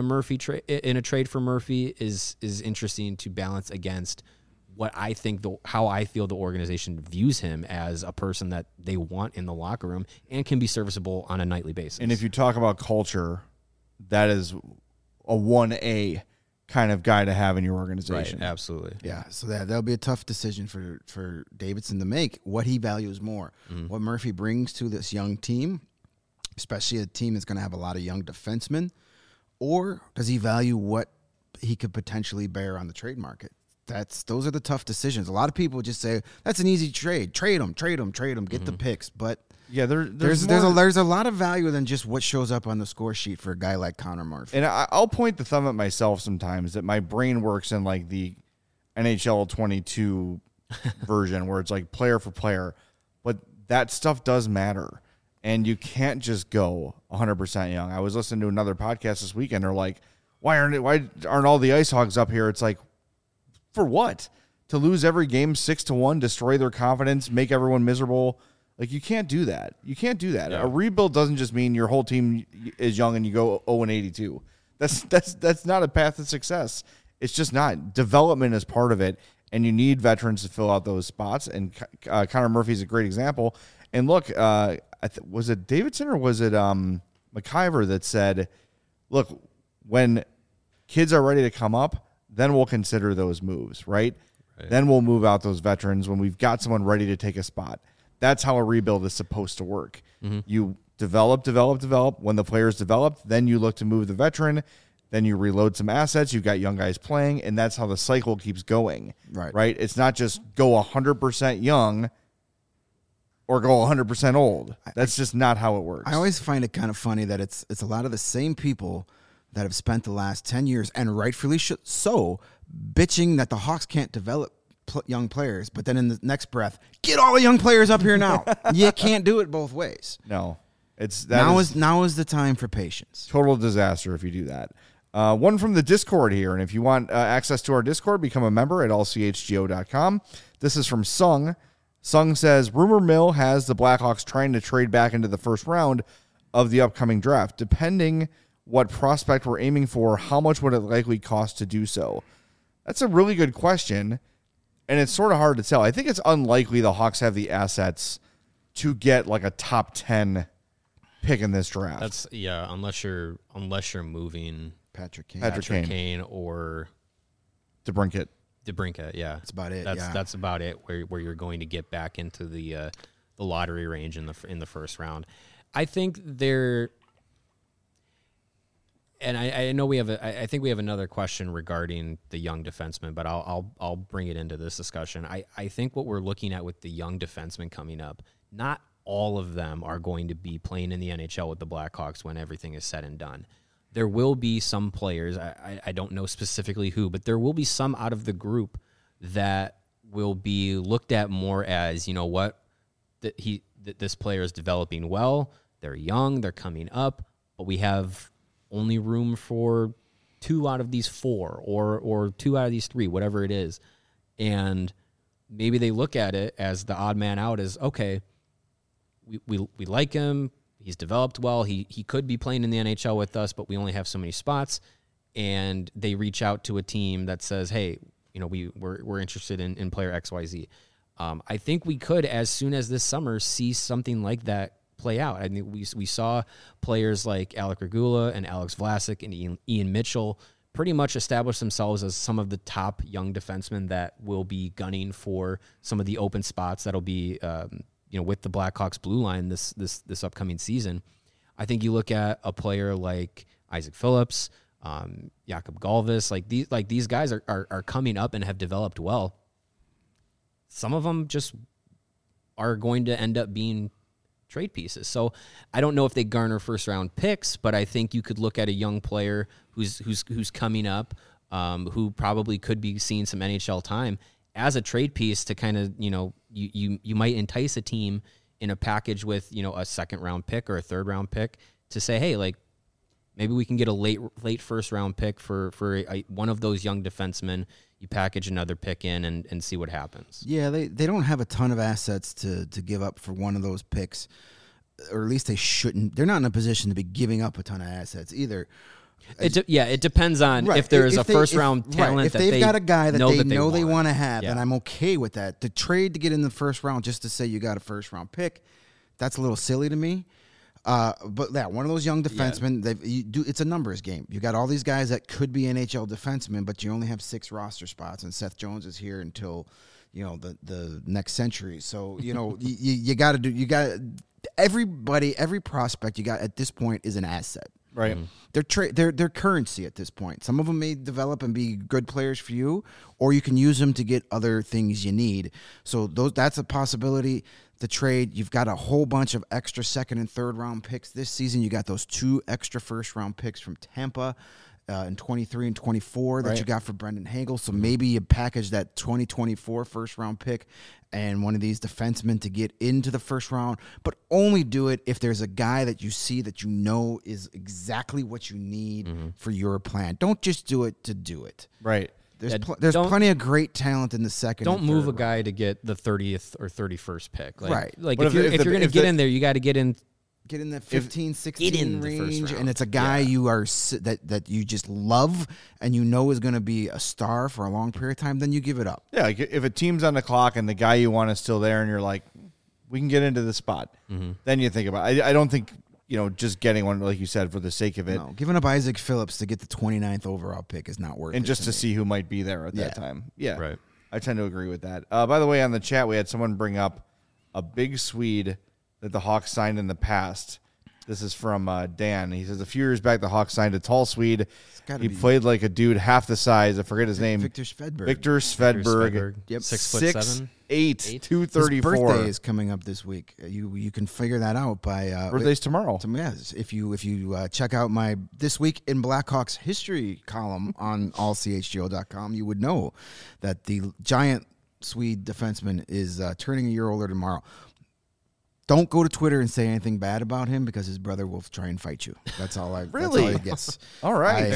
C: a trade for Murphy is interesting to balance against what I think how I feel the organization views him as a person that they want in the locker room and can be serviceable on a nightly basis.
A: And if you talk about culture, that is a 1A kind of guy to have in your organization.
C: Right, absolutely.
D: Yeah, so that'll be a tough decision for Davidson to make. What he values more, what Murphy brings to this young team, especially a team that's going to have a lot of young defensemen, or does he value what he could potentially bear on the trade market? Those are the tough decisions. A lot of people just say that's an easy trade. Trade him, get the picks. But
A: yeah,
D: there's a lot of value than just what shows up on the score sheet for a guy like Connor Murphy.
A: And I'll point the thumb at myself sometimes that my brain works in like the NHL 22 version where it's like player for player, but that stuff does matter. And you can't just go 100% young. I was listening to another podcast this weekend. They're like, why aren't all the Ice Hogs up here? It's like, for what? To lose every game 6-1, destroy their confidence, make everyone miserable. Like, you can't do that. You can't do that. Yeah. A rebuild doesn't just mean your whole team is young and you go 0-82. That's not a path to success. It's just not. Development is part of it, and you need veterans to fill out those spots. And Connor Murphy is a great example. And look, was it Davidson or was it McIver that said, look, when kids are ready to come up, then we'll consider those moves, right? Then we'll move out those veterans when we've got someone ready to take a spot. That's how a rebuild is supposed to work. Mm-hmm. You develop. When the player's developed, then you look to move the veteran. Then you reload some assets. You've got young guys playing, and that's how the cycle keeps going. Right? It's not just go 100% young or go 100% old. That's just not how it works.
D: I always find it kind of funny that it's a lot of the same people that have spent the last 10 years, and rightfully so, bitching that the Hawks can't develop young players, but then in the next breath, get all the young players up here now. You can't do it both ways.
A: No.
D: Now is the time for patience.
A: Total disaster if you do that. One from the Discord here, and if you want access to our Discord, become a member at allchgo.com. This is from Sung. Sung says, rumor mill has the Blackhawks trying to trade back into the first round of the upcoming draft. Depending what prospect we're aiming for, how much would it likely cost to do so? That's a really good question, and it's sort of hard to tell. I think it's unlikely the Hawks have the assets to get like a top 10 pick in this draft.
C: Unless you're moving
D: Patrick
C: Kane or
A: DeBrincat.
C: Yeah.
D: That's about it.
C: That's about it where you're going to get back into the lottery range in the first round. I think And I know we have I think we have another question regarding the young defenseman, but I'll bring it into this discussion. I think what we're looking at with the young defensemen coming up, not all of them are going to be playing in the NHL with the Blackhawks when everything is said and done. There will be some players, I don't know specifically who, but there will be some out of the group that will be looked at more as, you know what, that this player is developing well, they're young, they're coming up, but we have only room for 2 out of these 4 or 2 out of these 3, whatever it is. And maybe they look at it as the odd man out as, okay, we like him. He's developed well. He could be playing in the NHL with us, but we only have so many spots. And they reach out to a team that says, hey, you know, we're interested in player XYZ. I think we could, as soon as this summer, see something like that play out. I mean, we saw players like Alec Regula and Alex Vlasic and Ian Mitchell pretty much establish themselves as some of the top young defensemen that will be gunning for some of the open spots that'll be, with the Blackhawks blue line this upcoming season. I think you look at a player like Isaac Phillips, Jakob Galvis, like these guys are coming up and have developed well. Some of them just are going to end up being trade pieces. So I don't know if they garner first round picks, but I think you could look at a young player who's coming up, who probably could be seeing some NHL time as a trade piece to kind of, you might entice a team in a package with, a second round pick or a third round pick to say, hey, like maybe we can get a late first round pick for one of those young defensemen. You package another pick in and see what happens.
D: Yeah, they don't have a ton of assets to give up for one of those picks, or at least they shouldn't. They're not in a position to be giving up a ton of assets either.
C: It depends on if there is a first-round talent.
D: Right. If they've got a guy that they want to have,
C: yeah,
D: then I'm okay with that. The trade to get in the first round just to say you got a first-round pick, that's a little silly to me. But yeah, one of those young defensemen, it's a numbers game. You got all these guys that could be NHL defensemen, but you only have 6 roster spots, and Seth Jones is here until, the next century. So, you got every prospect you got at this point is an asset.
A: Right.
D: They're currency at this point. Some of them may develop and be good players for you, or you can use them to get other things you need. So that's a possibility. The trade, you've got a whole bunch of extra second and third round picks this season. You got those 2 extra first round picks from Tampa in 23 and 24 that you got for Brendan Hagel. So maybe you package that 2024 first round pick and one of these defensemen to get into the first round, but only do it if there's a guy that you see that is exactly what you need for your plan. Don't just do it to do it.
A: Right.
D: There's plenty of great talent in the second.
C: Don't move a guy to get the 30th or 31st pick. Right. Like if you're going to get in there, you got to get in
D: that 15, 16 range, and it's a guy that you just love and is going to be a star for a long period of time, then you give it up.
A: Yeah, like if a team's on the clock and the guy you want is still there and you're like, we can get into the spot, then you think about it. I don't think, just getting one, like you said, for the sake of it.
D: No, giving up Isaac Phillips to get the 29th overall pick is not worth it.
A: And just to see who might be there at that time. Yeah,
C: right.
A: I tend to agree with that. By the way, on the chat, we had someone bring up a big Swede that the Hawks signed in the past. This is from Dan. He says, a few years back, the Hawks signed a tall Swede. He played like a dude half the size. I forget his name.
D: Victor Svedberg.
A: Victor Svedberg.
C: Yep. 6'7".
A: 6'8", 234.
D: His birthday is coming up this week. You can figure that out by
A: birthday's tomorrow.
D: Yes, if you check out my This Week in Blackhawks history column on allchgo.com, you would know that the giant Swede defenseman is turning a year older tomorrow. Don't go to Twitter and say anything bad about him because his brother will try and fight you. That's all I.
A: Really?
D: That's all I guess.
A: All right.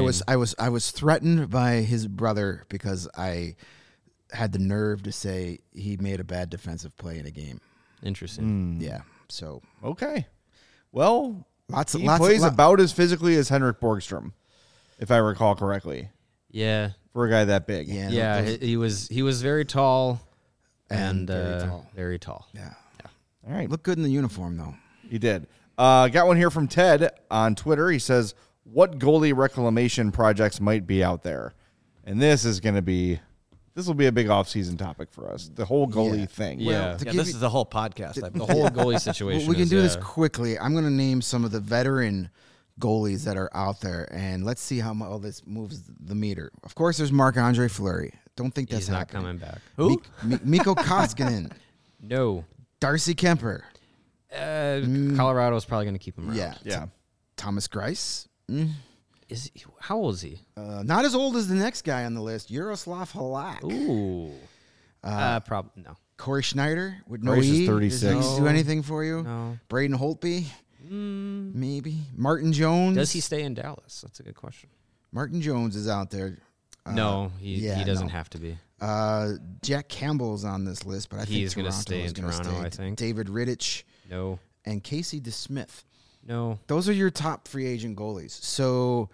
D: I was threatened by his brother because I had the nerve to say he made a bad defensive play in a game.
C: Interesting.
D: Yeah. So
A: okay. Well, he
D: plays
A: plays about as physically as Henrik Borgstrom, if I recall correctly.
C: Yeah.
A: For a guy that big.
C: Yeah. He was very tall and very tall.
D: Yeah.
A: All right.
D: Looked good in the uniform, though.
A: He did. Got one here from Ted on Twitter. He says, what goalie reclamation projects might be out there? And this will be a big offseason topic for us. The whole goalie thing.
B: Yeah. This is the whole podcast.
C: The whole goalie situation.
D: We can do this quickly. I'm going to name some of the veteran goalies that are out there, and let's see how all this moves the meter. Of course, there's Marc-Andre Fleury. Don't think that's
C: He's not
D: happening.
C: coming back.
B: Who?
D: Mikko Koskinen,
C: No.
D: Darcy Kemper,
C: Colorado's probably going to keep him around.
D: yeah. Thomas Greiss.
C: How old is he?
D: Not as old as the next guy on the list, Yaroslav Halak.
C: Ooh. Probably no.
D: Corey Schneider with no
A: Greiss is
D: E.
A: 36.
D: Does he do anything for you?
C: No.
D: Braden Holtby, maybe. Martin Jones.
C: Does he stay in Dallas? That's a good question.
D: Martin Jones is out there.
C: No, he doesn't
D: no.
C: have to be.
D: Jack Campbell's on this list, but I
C: He's
D: think
C: gonna
D: Toronto
C: stay
D: is
C: in
D: gonna
C: Toronto,
D: stay.
C: I think.
D: David Rittich
C: No.
D: and Casey DeSmith.
C: No.
D: Those are your top free agent goalies. So,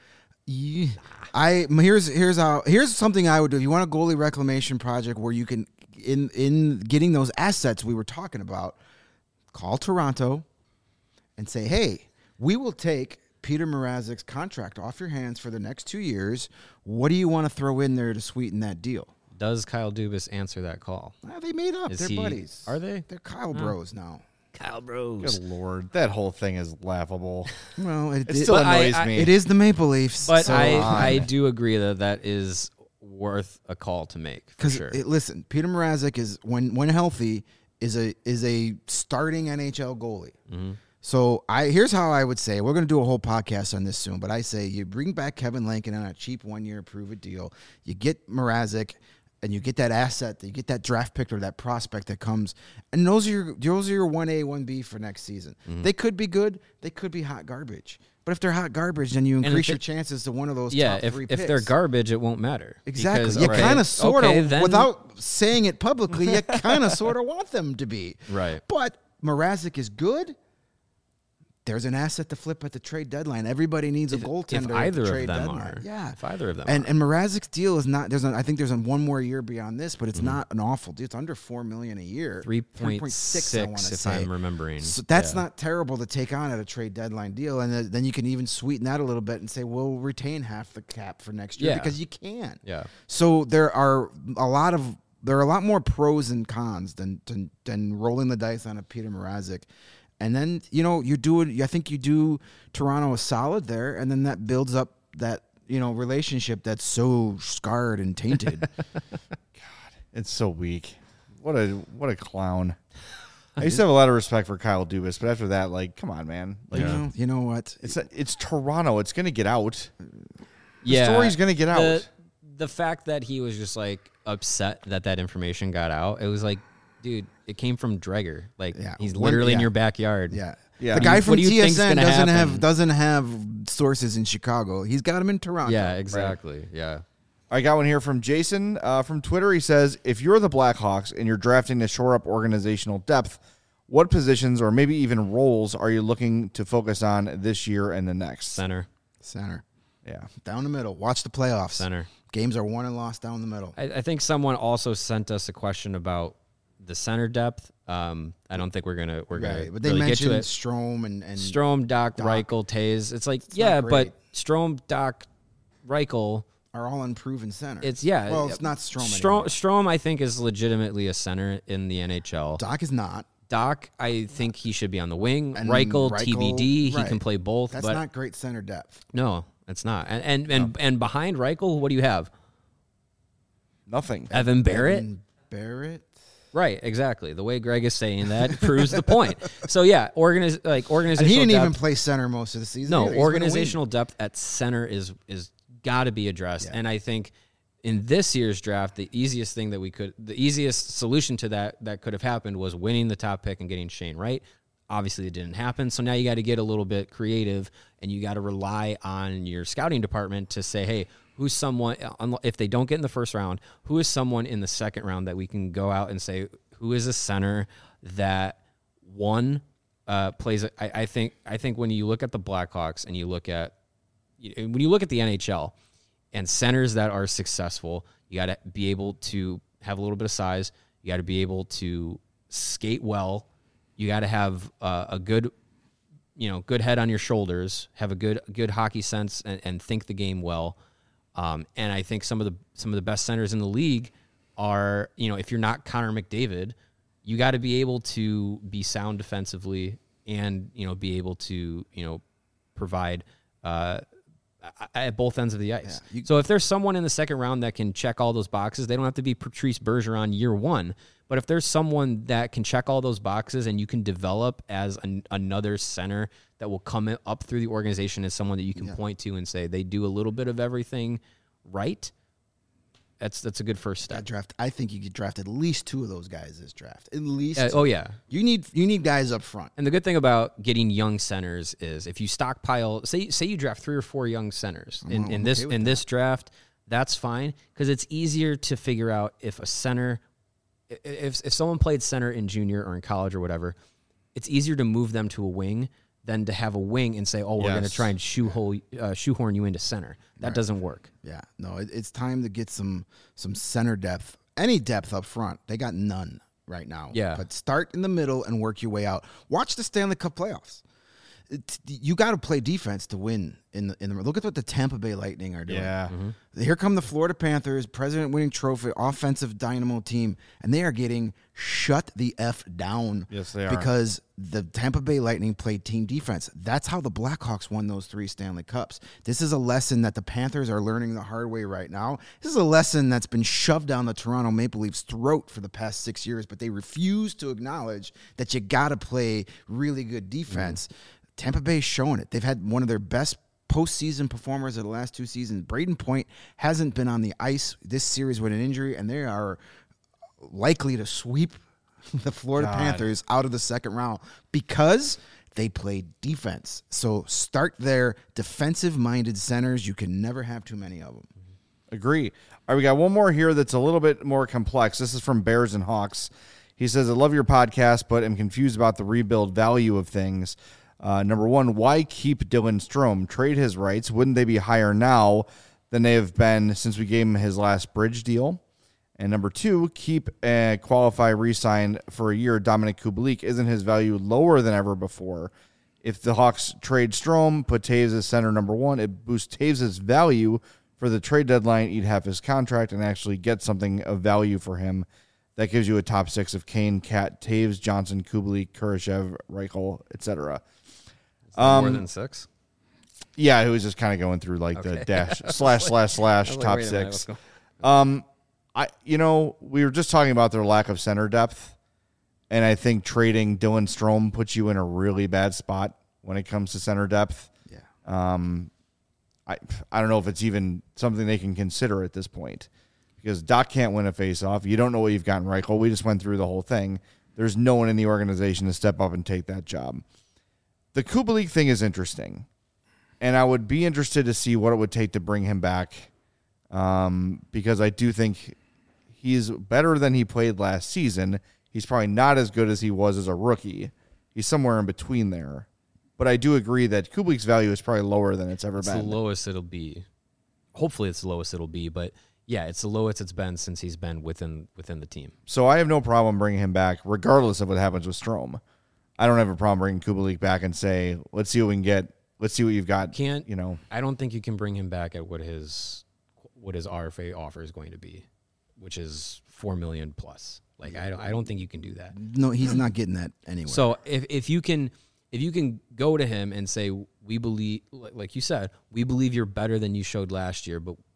D: here's something I would do. If you want a goalie reclamation project where you can, in getting those assets we were talking about, call Toronto and say, hey, we will take Peter Mrazek's contract off your hands for the next 2 years. What do you want to throw in there to sweeten that deal?
C: Does Kyle Dubas answer that call?
D: They made up.
C: Is
D: They're
C: he-
D: buddies.
C: Are they?
D: They're Kyle Bros now.
C: Kyle Bros.
A: Good Lord. That whole thing is laughable.
D: Well,
A: It still annoys me.
D: it is the Maple Leafs.
C: But
D: so
C: I do agree that is worth a call to make for
D: Because
C: sure.
D: listen, Peter Mrazek is when healthy is a starting NHL goalie.
C: Mm-hmm.
D: So here's how I would say, we're going to do a whole podcast on this soon, but I say you bring back Kevin Lankin on a cheap 1-year prove-it deal. You get Mrazek, and you get that asset, you get that draft pick or that prospect that comes, and those are your 1A, 1B for next season.
C: Mm-hmm.
D: They could be good, they could be hot garbage. But if they're hot garbage, then you
C: if
D: increase your
C: it-
D: chances to one of those
C: yeah,
D: top three picks.
C: if they're garbage, it won't matter.
D: Exactly.
C: Because,
D: You
C: okay,
D: kind of sort of,
C: okay, then-
D: without saying it publicly, you kind of sort of want them to be.
C: Right.
D: But Mrazek is good. There's an asset to flip at the trade deadline. Everybody needs a goaltender
C: If
D: at
C: either
D: the
C: of
D: trade
C: them
D: deadline.
C: are.
D: Yeah.
C: If either of them
D: and
C: are.
D: and Mrazek's deal is not. I think there's one more year beyond this, but it's not an awful deal. It's under $4 million a year.
C: 3.6
D: I want to
C: if
D: say.
C: I'm remembering.
D: So that's
C: Yeah.
D: not terrible to take on at a trade deadline deal, and then you can even sweeten that a little bit and say we'll retain half the cap for next year
C: Yeah.
D: because you can.
C: Yeah.
D: So there are a lot more pros and cons than rolling the dice on a Peter Mrazek. And then, I think you do Toronto a solid there, and then that builds up that, relationship that's so scarred and tainted.
A: It's so weak. What a clown. I used to have a lot of respect for Kyle Dubas, but after that, come on, man.
D: You know what?
A: It's Toronto. It's going to get out.
C: Yeah.
A: story's gonna get out.
C: The fact that he was just upset that information got out, it was dude, it came from Dreger.
D: Yeah.
C: He's literally in your backyard.
D: Yeah.
A: Yeah.
D: The guy
C: What
D: from
C: do you think's
D: TSN
C: gonna happen?
D: doesn't have sources in Chicago. He's got them in Toronto.
C: Yeah, exactly. Yeah.
A: I got one here from Jason from Twitter. He says, if you're the Blackhawks and you're drafting to shore up organizational depth, what positions or maybe even roles are you looking to focus on this year and the next?
C: Center.
A: Yeah.
D: Down the middle. Watch the playoffs.
C: Center.
D: Games are won and lost down the middle.
C: I think someone also sent us a question about the center depth. I don't think we're gonna
D: Right. But they
C: really get to
D: mentioned
C: it.
D: Strom and
C: Strom, Doc,
D: Doc.
C: Reichel, Taze. It's
D: not
C: but
D: great.
C: Strom, Doc, Reichel.
D: are all unproven center.
C: Well,
D: it's not Strom anymore.
C: Strom, I think, is legitimately a center in the NHL.
D: Doc is not.
C: Doc, I think he should be on the wing.
D: And
C: Reichel,
D: Reichel,
C: TBD, he
D: right.
C: can play both.
D: That's
C: but
D: not great center depth.
C: no, it's not. And behind Reichel, what do you have?
A: Nothing.
C: Evan Barrett.
D: And Barrett.
C: Right, exactly. The way Greg is saying that proves the point. So yeah, organizational.
D: And he didn't
C: depth,
D: even play center most of the season.
C: No,
D: either. He's been a
C: organizational depth at center is got to be addressed, and I think in this year's draft, the easiest solution to that could have happened was winning the top pick and getting Shane Wright. Obviously, it didn't happen. So now you got to get a little bit creative, and you got to rely on your scouting department to say, hey, who's someone, if they don't get in the first round, who is someone in the second round that we can go out and say, who is a center that plays? I think when you look at the Blackhawks and you look at the NHL and centers that are successful, you got to be able to have a little bit of size. You got to be able to skate well. You got to have a good head on your shoulders, have a good hockey sense, and think the game well. And I think some of the best centers in the league are, if you're not Connor McDavid, you got to be able to be sound defensively and be able to provide at both ends of the ice.
D: Yeah,
C: So if there's someone in the second round that can check all those boxes, they don't have to be Patrice Bergeron year one. But if there's someone that can check all those boxes and you can develop as another center that will come up through the organization as someone that you can point to and say they do a little bit of everything right, that's a good first step.
D: That draft, I think you could draft at least 2 of those guys this draft. At least.
C: Oh yeah.
D: You need guys up front.
C: And the good thing about getting young centers is if you stockpile, say you draft 3 or 4 young centers in this draft, that's fine because it's easier to figure out if a center, if someone played center in junior or in college or whatever, it's easier to move them to a wing than to have a wing and say, oh, we're going to try and shoehorn you into center. That doesn't work.
D: Yeah, no, it's time to get some center depth, any depth up front. They got none right now.
C: Yeah.
D: But start in the middle and work your way out. Watch the Stanley Cup playoffs. You got to play defense to win in the. Look at what the Tampa Bay Lightning are doing.
A: Yeah.
D: Here come the Florida Panthers, president-winning trophy, offensive dynamo team, and they are getting shut the F down.
A: Yes, they are.
D: Because the Tampa Bay Lightning played team defense. That's how the Blackhawks won those 3 Stanley Cups. This is a lesson that the Panthers are learning the hard way right now. This is a lesson that's been shoved down the Toronto Maple Leafs' throat for the past 6 years, but they refuse to acknowledge that you got to play really good defense. Tampa Bay's showing it. They've had one of their best postseason performers of the last 2 seasons. Braden Point hasn't been on the ice this series with an injury, and they are likely to sweep the Florida Panthers out of the second round because they play defense. So start their defensive-minded centers. You can never have too many of them.
A: Agree. All right, we got one more here that's a little bit more complex. This is from Bears and Hawks. He says, I love your podcast, but am confused about the rebuild value of things. Number one, why keep Dylan Strome? Trade his rights. Wouldn't they be higher now than they have been since we gave him his last bridge deal? And number two, keep qualify re-sign for a year. Dominic Kubalik. Isn't his value lower than ever before? If the Hawks trade Strome, put Taves as center number one, it boosts Taves' value for the trade deadline, eat half his contract, and actually get something of value for him. That gives you a top 6 of Kane, Cat, Taves, Johnson, Kubalik, Kurashev, Reichel, etc.
C: More than 6?
A: Yeah, it was just kind of going through like the dash / top 6. We were just talking about their lack of center depth, and I think trading Dylan Strome puts you in a really bad spot when it comes to center depth.
D: Yeah.
A: I don't know if it's even something they can consider at this point because Doc can't win a faceoff. You don't know what you've got in Reichel. We just went through the whole thing. There's no one in the organization to step up and take that job. The Kubalik thing is interesting, and I would be interested to see what it would take to bring him back because I do think he's better than he played last season. He's probably not as good as he was as a rookie. He's somewhere in between there. But I do agree that Kubalik's value is probably lower than it's ever been.
C: It's the lowest it'll be. Hopefully it's the lowest it'll be, but yeah, it's the lowest it's been since he's been within the team. So
A: I have no problem bringing him back regardless of what happens with Strome. I don't have a problem bringing Kubalik back and say, let's see what we can get. Let's see what you've got.
C: I don't think you can bring him back at what his RFA offer is going to be, which is $4 million plus. Like I don't think you can do that.
D: No, he's not getting that anyway.
C: So if you can go to him and say, we believe, like you said, we believe you're better than you showed last year, but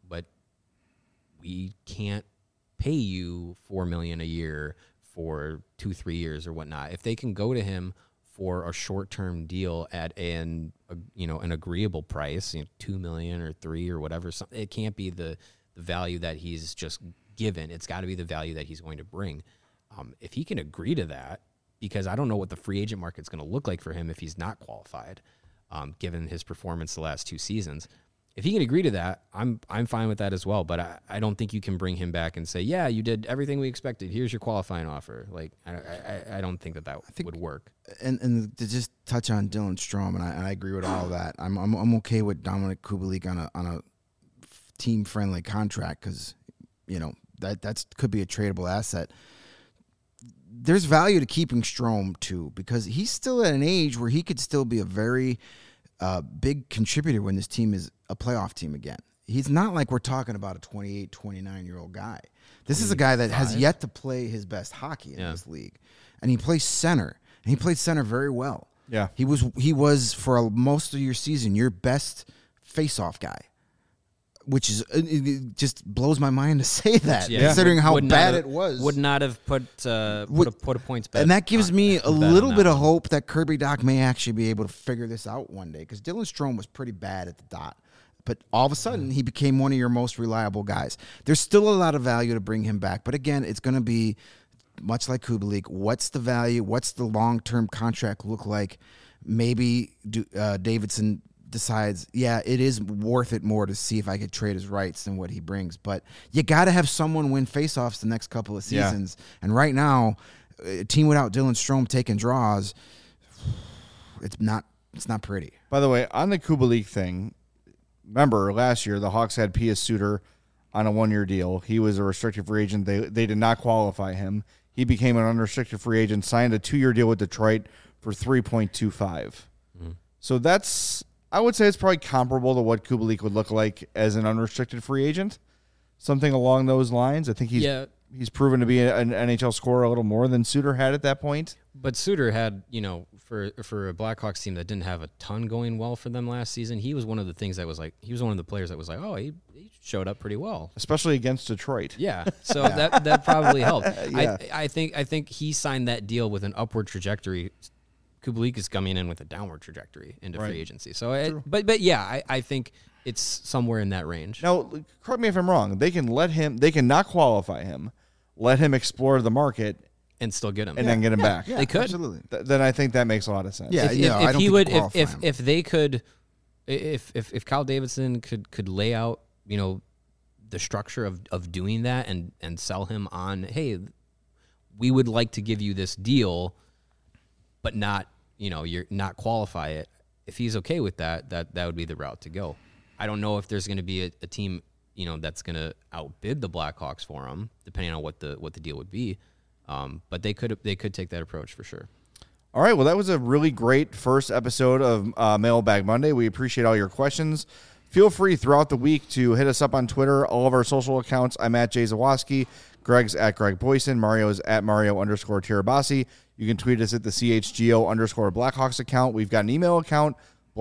C: we can't pay you $4 million a year for 2-3 years or whatnot. If they can go to him for a short-term deal at an agreeable price, $2 million or $3 million or whatever, it can't be the value that he's just given. It's got to be the value that he's going to bring. If he can agree to that, because I don't know what the free agent market's going to look like for him if he's not qualified, given his performance the last 2 seasons. If he can agree to that, I'm fine with that as well. But I don't think you can bring him back and say, yeah, you did everything we expected. Here's your qualifying offer. Like I don't think that would work.
D: And to just touch on Dylan Strome, and I agree with all of that. I'm okay with Dominic Kubalik on a team friendly contract because that could be a tradable asset. There's value to keeping Strome too because he's still at an age where he could still be a very big contributor when this team is a playoff team again. He's not like we're talking about a 28, 29-year-old guy. This is a guy that has yet to play his best hockey in this league. And he plays center. And he played center very well.
A: Yeah.
D: He was for most of your season your best face-off guy, which is it just blows my mind to say that,
C: Yeah.
D: considering how
C: Would not
D: bad
C: have-
D: it was.
C: Would not have put a points bet.
D: And that gives me a
C: bet on
D: little
C: that
D: bit of
C: one.
D: hope that Kirby Doc may actually be able to figure this out one day, because Dylan Strome was pretty bad at the dot. But all of a sudden, he became one of your most reliable guys. There's still a lot of value to bring him back. But again, it's going to be much like Kubalik. What's the value? What's the long-term contract look like? Maybe Davidson decides, yeah, it is worth it more to see if I could trade his rights than what he brings. But you got to have someone win faceoffs the next couple of
A: Yeah.
D: seasons. And right now, a team without Dylan Strome taking draws, it's not pretty.
A: By the way, on the Kubalik thing, remember last year the Hawks had Pius Suter on a 1-year deal. He was a restricted free agent. They did not qualify him. He became an unrestricted free agent, signed a 2-year deal with Detroit for $3.25. So that's, I would say it's probably comparable to what Kubalik would look like as an unrestricted free agent. Something along those lines. I think he's proven to be an NHL scorer a little more than Suter had at that point.
C: But Suter had, for a Blackhawks team that didn't have a ton going well for them last season, he was one of the things that was like, he was one of the players that was like, oh, he showed up pretty well.
A: Especially against Detroit.
C: Yeah, so that probably helped.
A: Yeah.
C: I think he signed that deal with an upward trajectory. Kubalik is coming in with a downward trajectory into
A: Right.
C: free agency. So, but yeah, I think it's somewhere in that range.
A: Now, correct me if I'm wrong. They can not qualify him, let him explore the market,
C: And still get him.
A: and then get him back.
C: They could.
D: Absolutely.
A: Then I think that makes a lot of sense.
D: Yeah.
C: If
D: I don't
C: he
D: think
C: would,
D: you qualify him.
C: if they could, if Kyle Davidson could lay out, the structure of doing that and sell him on, hey, we would like to give you this deal, but not, you're not qualify it. If he's okay with that would be the route to go. I don't know if there's going to be a team, that's going to outbid the Blackhawks for him, depending on what the deal would be. But they could take that approach for sure.
A: All right. Well, that was a really great first episode of Mailbag Monday. We appreciate all your questions. Feel free throughout the week to hit us up on Twitter, all of our social accounts. I'm at Jay Zawoski. Greg's at Greg Boyson. Mario's at Mario_Tirabassi. You can tweet us at the CHGO_Blackhawks account. We've got an email account,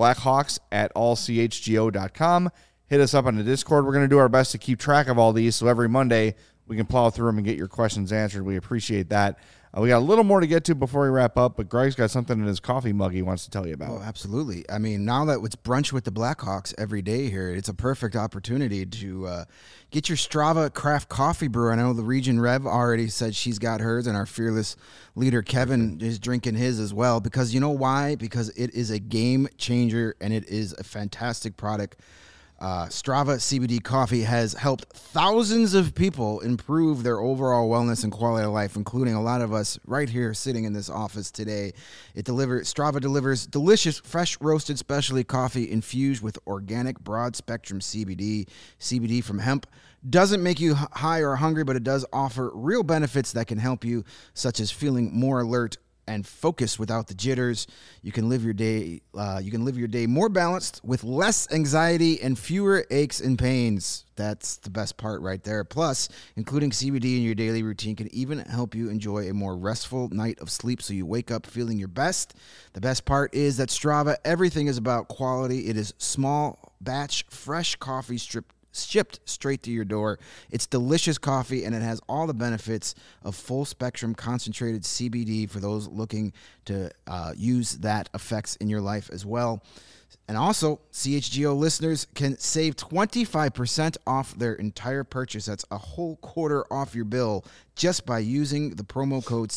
A: blackhawks@allchgo.com. Hit us up on the Discord. We're going to do our best to keep track of all these, so every Monday we can plow through them and get your questions answered. We appreciate that. We got a little more to get to before we wrap up, but Greg's got something in his coffee mug he wants to tell you about.
D: Oh, absolutely. I mean, now that it's brunch with the Blackhawks every day here, it's a perfect opportunity to get your Strava craft coffee brew. I know the Region Rev already said she's got hers, and our fearless leader, Kevin, is drinking his as well. Because you know why? Because it is a game changer, and it is a fantastic product. Strava CBD coffee has helped thousands of people improve their overall wellness and quality of life, including a lot of us right here sitting in this office today. Strava delivers delicious, fresh roasted specialty coffee infused with organic broad spectrum CBD. CBD from hemp doesn't make you high or hungry, but it does offer real benefits that can help you, such as feeling more alert and focus without the jitters. You can live your day. More balanced with less anxiety and fewer aches and pains. That's the best part right there. Plus, including CBD in your daily routine can even help you enjoy a more restful night of sleep, so you wake up feeling your best. The best part is that Strava, everything is about quality. It is small batch, fresh coffee shipped straight to your door. It's delicious coffee, and it has all the benefits of full spectrum concentrated CBD for those looking to use that effects in your life as well. And also, CHGO listeners can save 25% off their entire purchase. That's a whole quarter off your bill just by using the promo code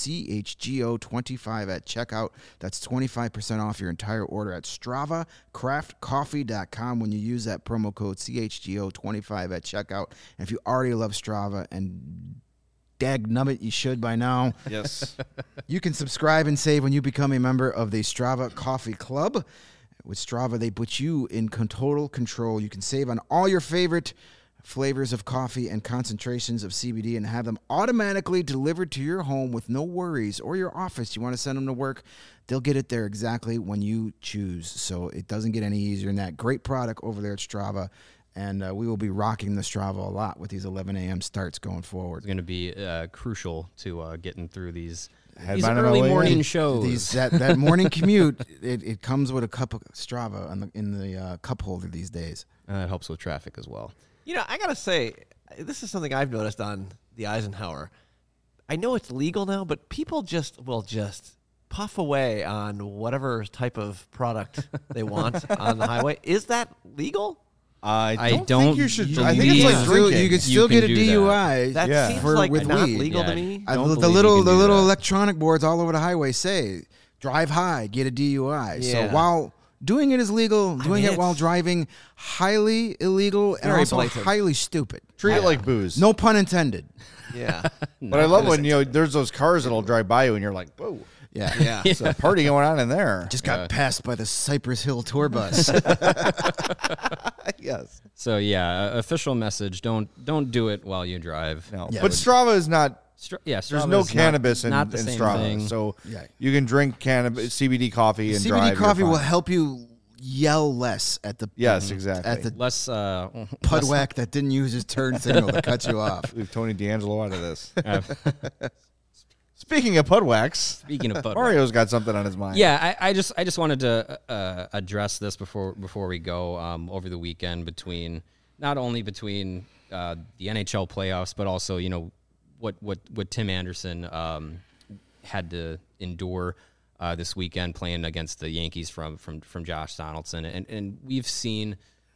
D: CHGO25 at checkout. That's 25% off your entire order at StravaCraftCoffee.com when you use that promo code CHGO25 at checkout. And if you already love Strava, and dagnubbit, you should by now.
A: Yes.
D: You can subscribe and save when you become a member of the Strava Coffee Club. With Strava, they put you in total control. You can save on all your favorite flavors of coffee and concentrations of CBD and have them automatically delivered to your home with no worries, or your office. You want to send them to work, they'll get it there exactly when you choose. So it doesn't get any easier than that. Great product over there at Strava. And we will be rocking the Strava a lot with these 11 a.m. starts going forward.
C: It's going to be crucial to getting through these These
A: Headbang on my
C: early
A: way
C: morning
A: in.
C: shows.
D: That morning commute, it comes with a cup of Strava in the cup holder these days.
C: It helps with traffic as well.
B: You know, I gotta say, this is something I've noticed on the Eisenhower. I know it's legal now, but people will just puff away on whatever type of product they want on the highway. Is that legal?
A: I don't
C: don't
A: think you should. I think
C: believe-
A: it's like
C: Yeah.
A: drinking.
D: You can still
C: can
D: get a
C: do that.
D: DUI.
B: That
A: Yeah.
B: seems
D: For-
B: like
D: with
B: not
D: weed.
B: legal to
C: Yeah.
B: me.
C: Don't
D: the
C: believe
D: little
C: you can
D: the
C: do
D: little
C: that.
D: electronic boards all over the highway say drive high, get a DUI. So
B: Yeah.
D: while doing it is legal, doing
B: mean,
D: it while
B: it's
D: driving highly illegal and
B: very
D: also
B: blatant.
D: highly stupid.
A: Treat it like booze.
D: No pun intended.
B: Yeah.
A: But I love when there's those cars that'll drive by you and you're like, whoa,
D: Yeah.
B: Yeah.
A: there's a party going on in there.
D: Just got passed by the Cypress Hill tour bus.
A: Yes.
C: So yeah, official message: don't do it while you drive.
A: No.
D: Yeah.
A: But Strava is not.
C: There's
A: There's no cannabis in
C: the same
A: Strava,
C: thing.
A: so
D: Yeah.
A: you can drink cannabis, CBD coffee, and
D: CBD
A: drive.
D: coffee
A: You're
D: will
A: fine.
D: help you yell less at the
A: Yes, exactly.
D: at the
C: less
D: pudwack that didn't use his turn signal to cut you off.
A: Leave Tony D'Angelo out of this. Speaking of Pudwax,
C: Speaking of Bud
A: Mario's got something on his mind.
C: Yeah, I just wanted to address this before we go over the weekend not only between the NHL playoffs, but also what Tim Anderson had to endure this weekend playing against the Yankees from Josh Donaldson, and we've seen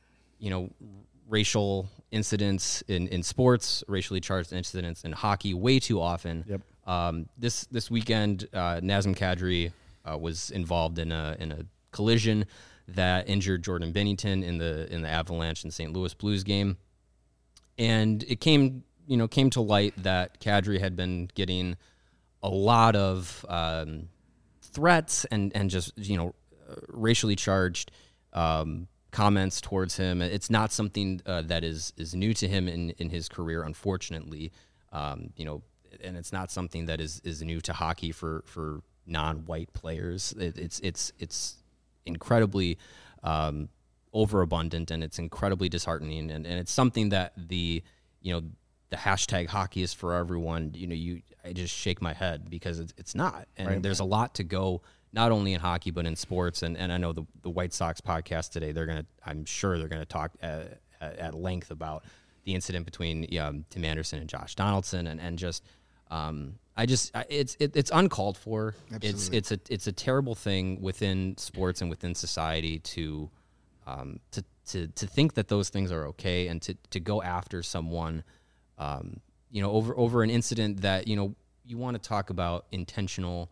C: racial incidents in sports, racially charged incidents in hockey way too often.
A: Yep.
C: This weekend, Nazem Kadri was involved in a collision that injured Jordan Binnington in the Avalanche and St. Louis Blues game, and it came to light that Kadri had been getting a lot of threats and just racially charged comments towards him. It's not something that is new to him in his career, unfortunately. And it's not something that is new to hockey for non-white players. It's incredibly overabundant, and it's incredibly disheartening, and it's something that the hashtag hockey is for everyone. I just shake my head because it's not, and
A: Right.
C: there's a lot to go, not only in hockey but in sports. And I know the White Sox podcast today, I'm sure they're gonna talk at length about the incident between Tim Anderson and Josh Donaldson, and just it's uncalled for.
D: Absolutely.
C: It's a terrible thing within sports and within society to think that those things are okay, and to go after someone over an incident that you want to talk about intentional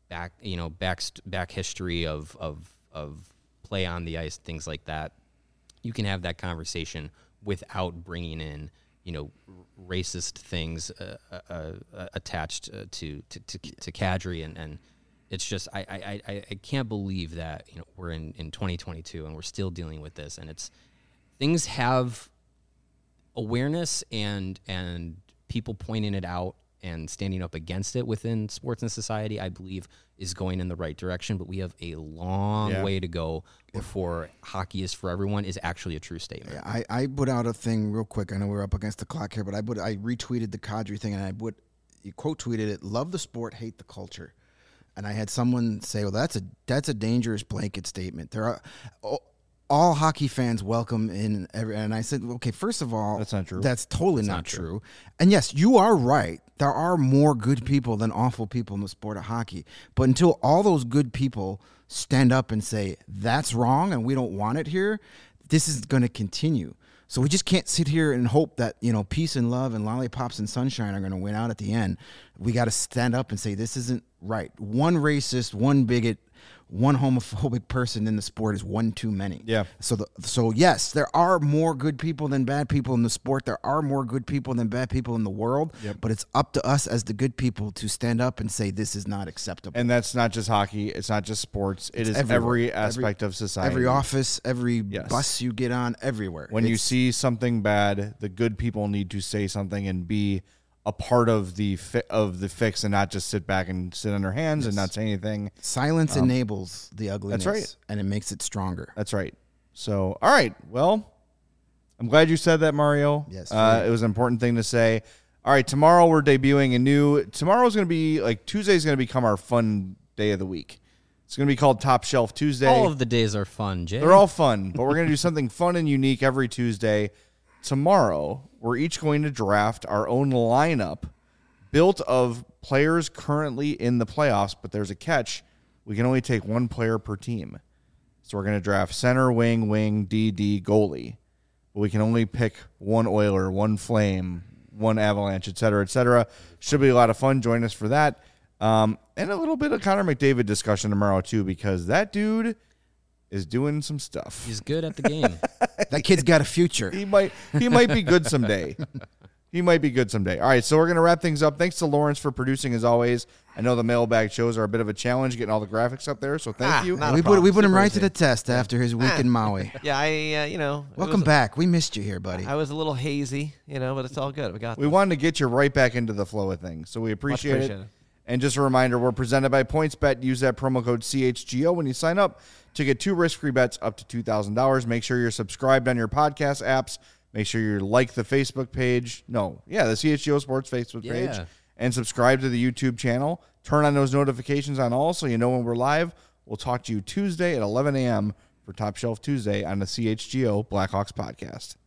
C: back history of play on the ice, things like that. You can have that conversation without bringing in racist things attached to Kadri, and it's just I can't believe that we're in 2022 and we're still dealing with this, and it's things have awareness and people pointing it out and standing up against it within sports and society, I believe, is going in the right direction. But we have a long way to go before hockey is for everyone is actually a true statement.
D: Yeah, I put out a thing real quick. I know we're up against the clock here, but I retweeted the Kadri thing, and you quote tweeted it: "Love the sport, hate the culture." And I had someone say, "Well, that's a dangerous blanket statement." There are all hockey fans welcome in every. And I said, "Okay, first of all,
A: That's not true.
D: That's totally not true." And yes, you are right. There are more good people than awful people in the sport of hockey. But until all those good people stand up and say that's wrong and we don't want it here, this is going to continue. So we just can't sit here and hope that, peace and love and lollipops and sunshine are going to win out at the end. We got to stand up and say this isn't right. One racist, one bigot, one homophobic person in the sport is one too many.
A: Yeah.
D: So yes, there are more good people than bad people in the sport. There are more good people than bad people in the world.
A: Yep.
D: But it's up to us as the good people to stand up and say this is not acceptable.
A: And that's not just hockey. It's not just sports. It is
D: everywhere.
A: every aspect of society.
D: Every office, every
A: Yes.
D: bus you get on, everywhere.
A: When you
D: It's-
A: see something bad, the good people need to say something and be a part of the fix, and not just sit back and sit on their hands and not say anything.
D: silence enables the ugliness,
A: right.
D: and it makes it stronger.
A: That's right. So, all right. Well, I'm glad you said that, Mario.
D: Yes.
A: It was an important thing to say. All right, tomorrow we're debuting a new. Tomorrow's going to be like Tuesday's going to become our fun day of the week. It's going to be called Top Shelf Tuesday.
C: All of the days are fun, Jay.
A: They're all fun, but we're going to do something fun and unique every Tuesday. Tomorrow, we're each going to draft our own lineup built of players currently in the playoffs, but there's a catch. We can only take one player per team. So we're going to draft center, wing, DD, goalie. But we can only pick one Oiler, one Flame, one Avalanche, et cetera, Should be a lot of fun. Join us for that. And a little bit of Connor McDavid discussion tomorrow, too, because that dude is doing some stuff.
C: He's good at the game.
D: That kid's got a future.
A: He might be good someday. He might be good someday. All right, so we're going to wrap things up. Thanks to Lawrence for producing, as always. I know the mailbag shows are a bit of a challenge getting all the graphics up there, so thank you.
B: not a
D: We
B: problem.
D: put him
B: Super
D: right
B: easy.
D: to the test after his week in Maui.
B: Yeah, it
D: Welcome
B: was-
D: back. We missed you here, buddy.
B: I was a little hazy, but it's all good. We got
A: We
B: this.
A: wanted to get you right back into the flow of things, so we appreciate it.
B: appreciated.
A: And just a reminder, we're presented by PointsBet. Use that promo code CHGO when you sign up to get 2 risk-free bets up to $2,000. Make sure you're subscribed on your podcast apps. Make sure you like the Facebook page. The CHGO Sports Facebook page.
C: Yeah.
A: And subscribe to the YouTube channel. Turn on those notifications on all so you know when we're live. We'll talk to you Tuesday at 11 a.m. for Top Shelf Tuesday on the CHGO Blackhawks podcast.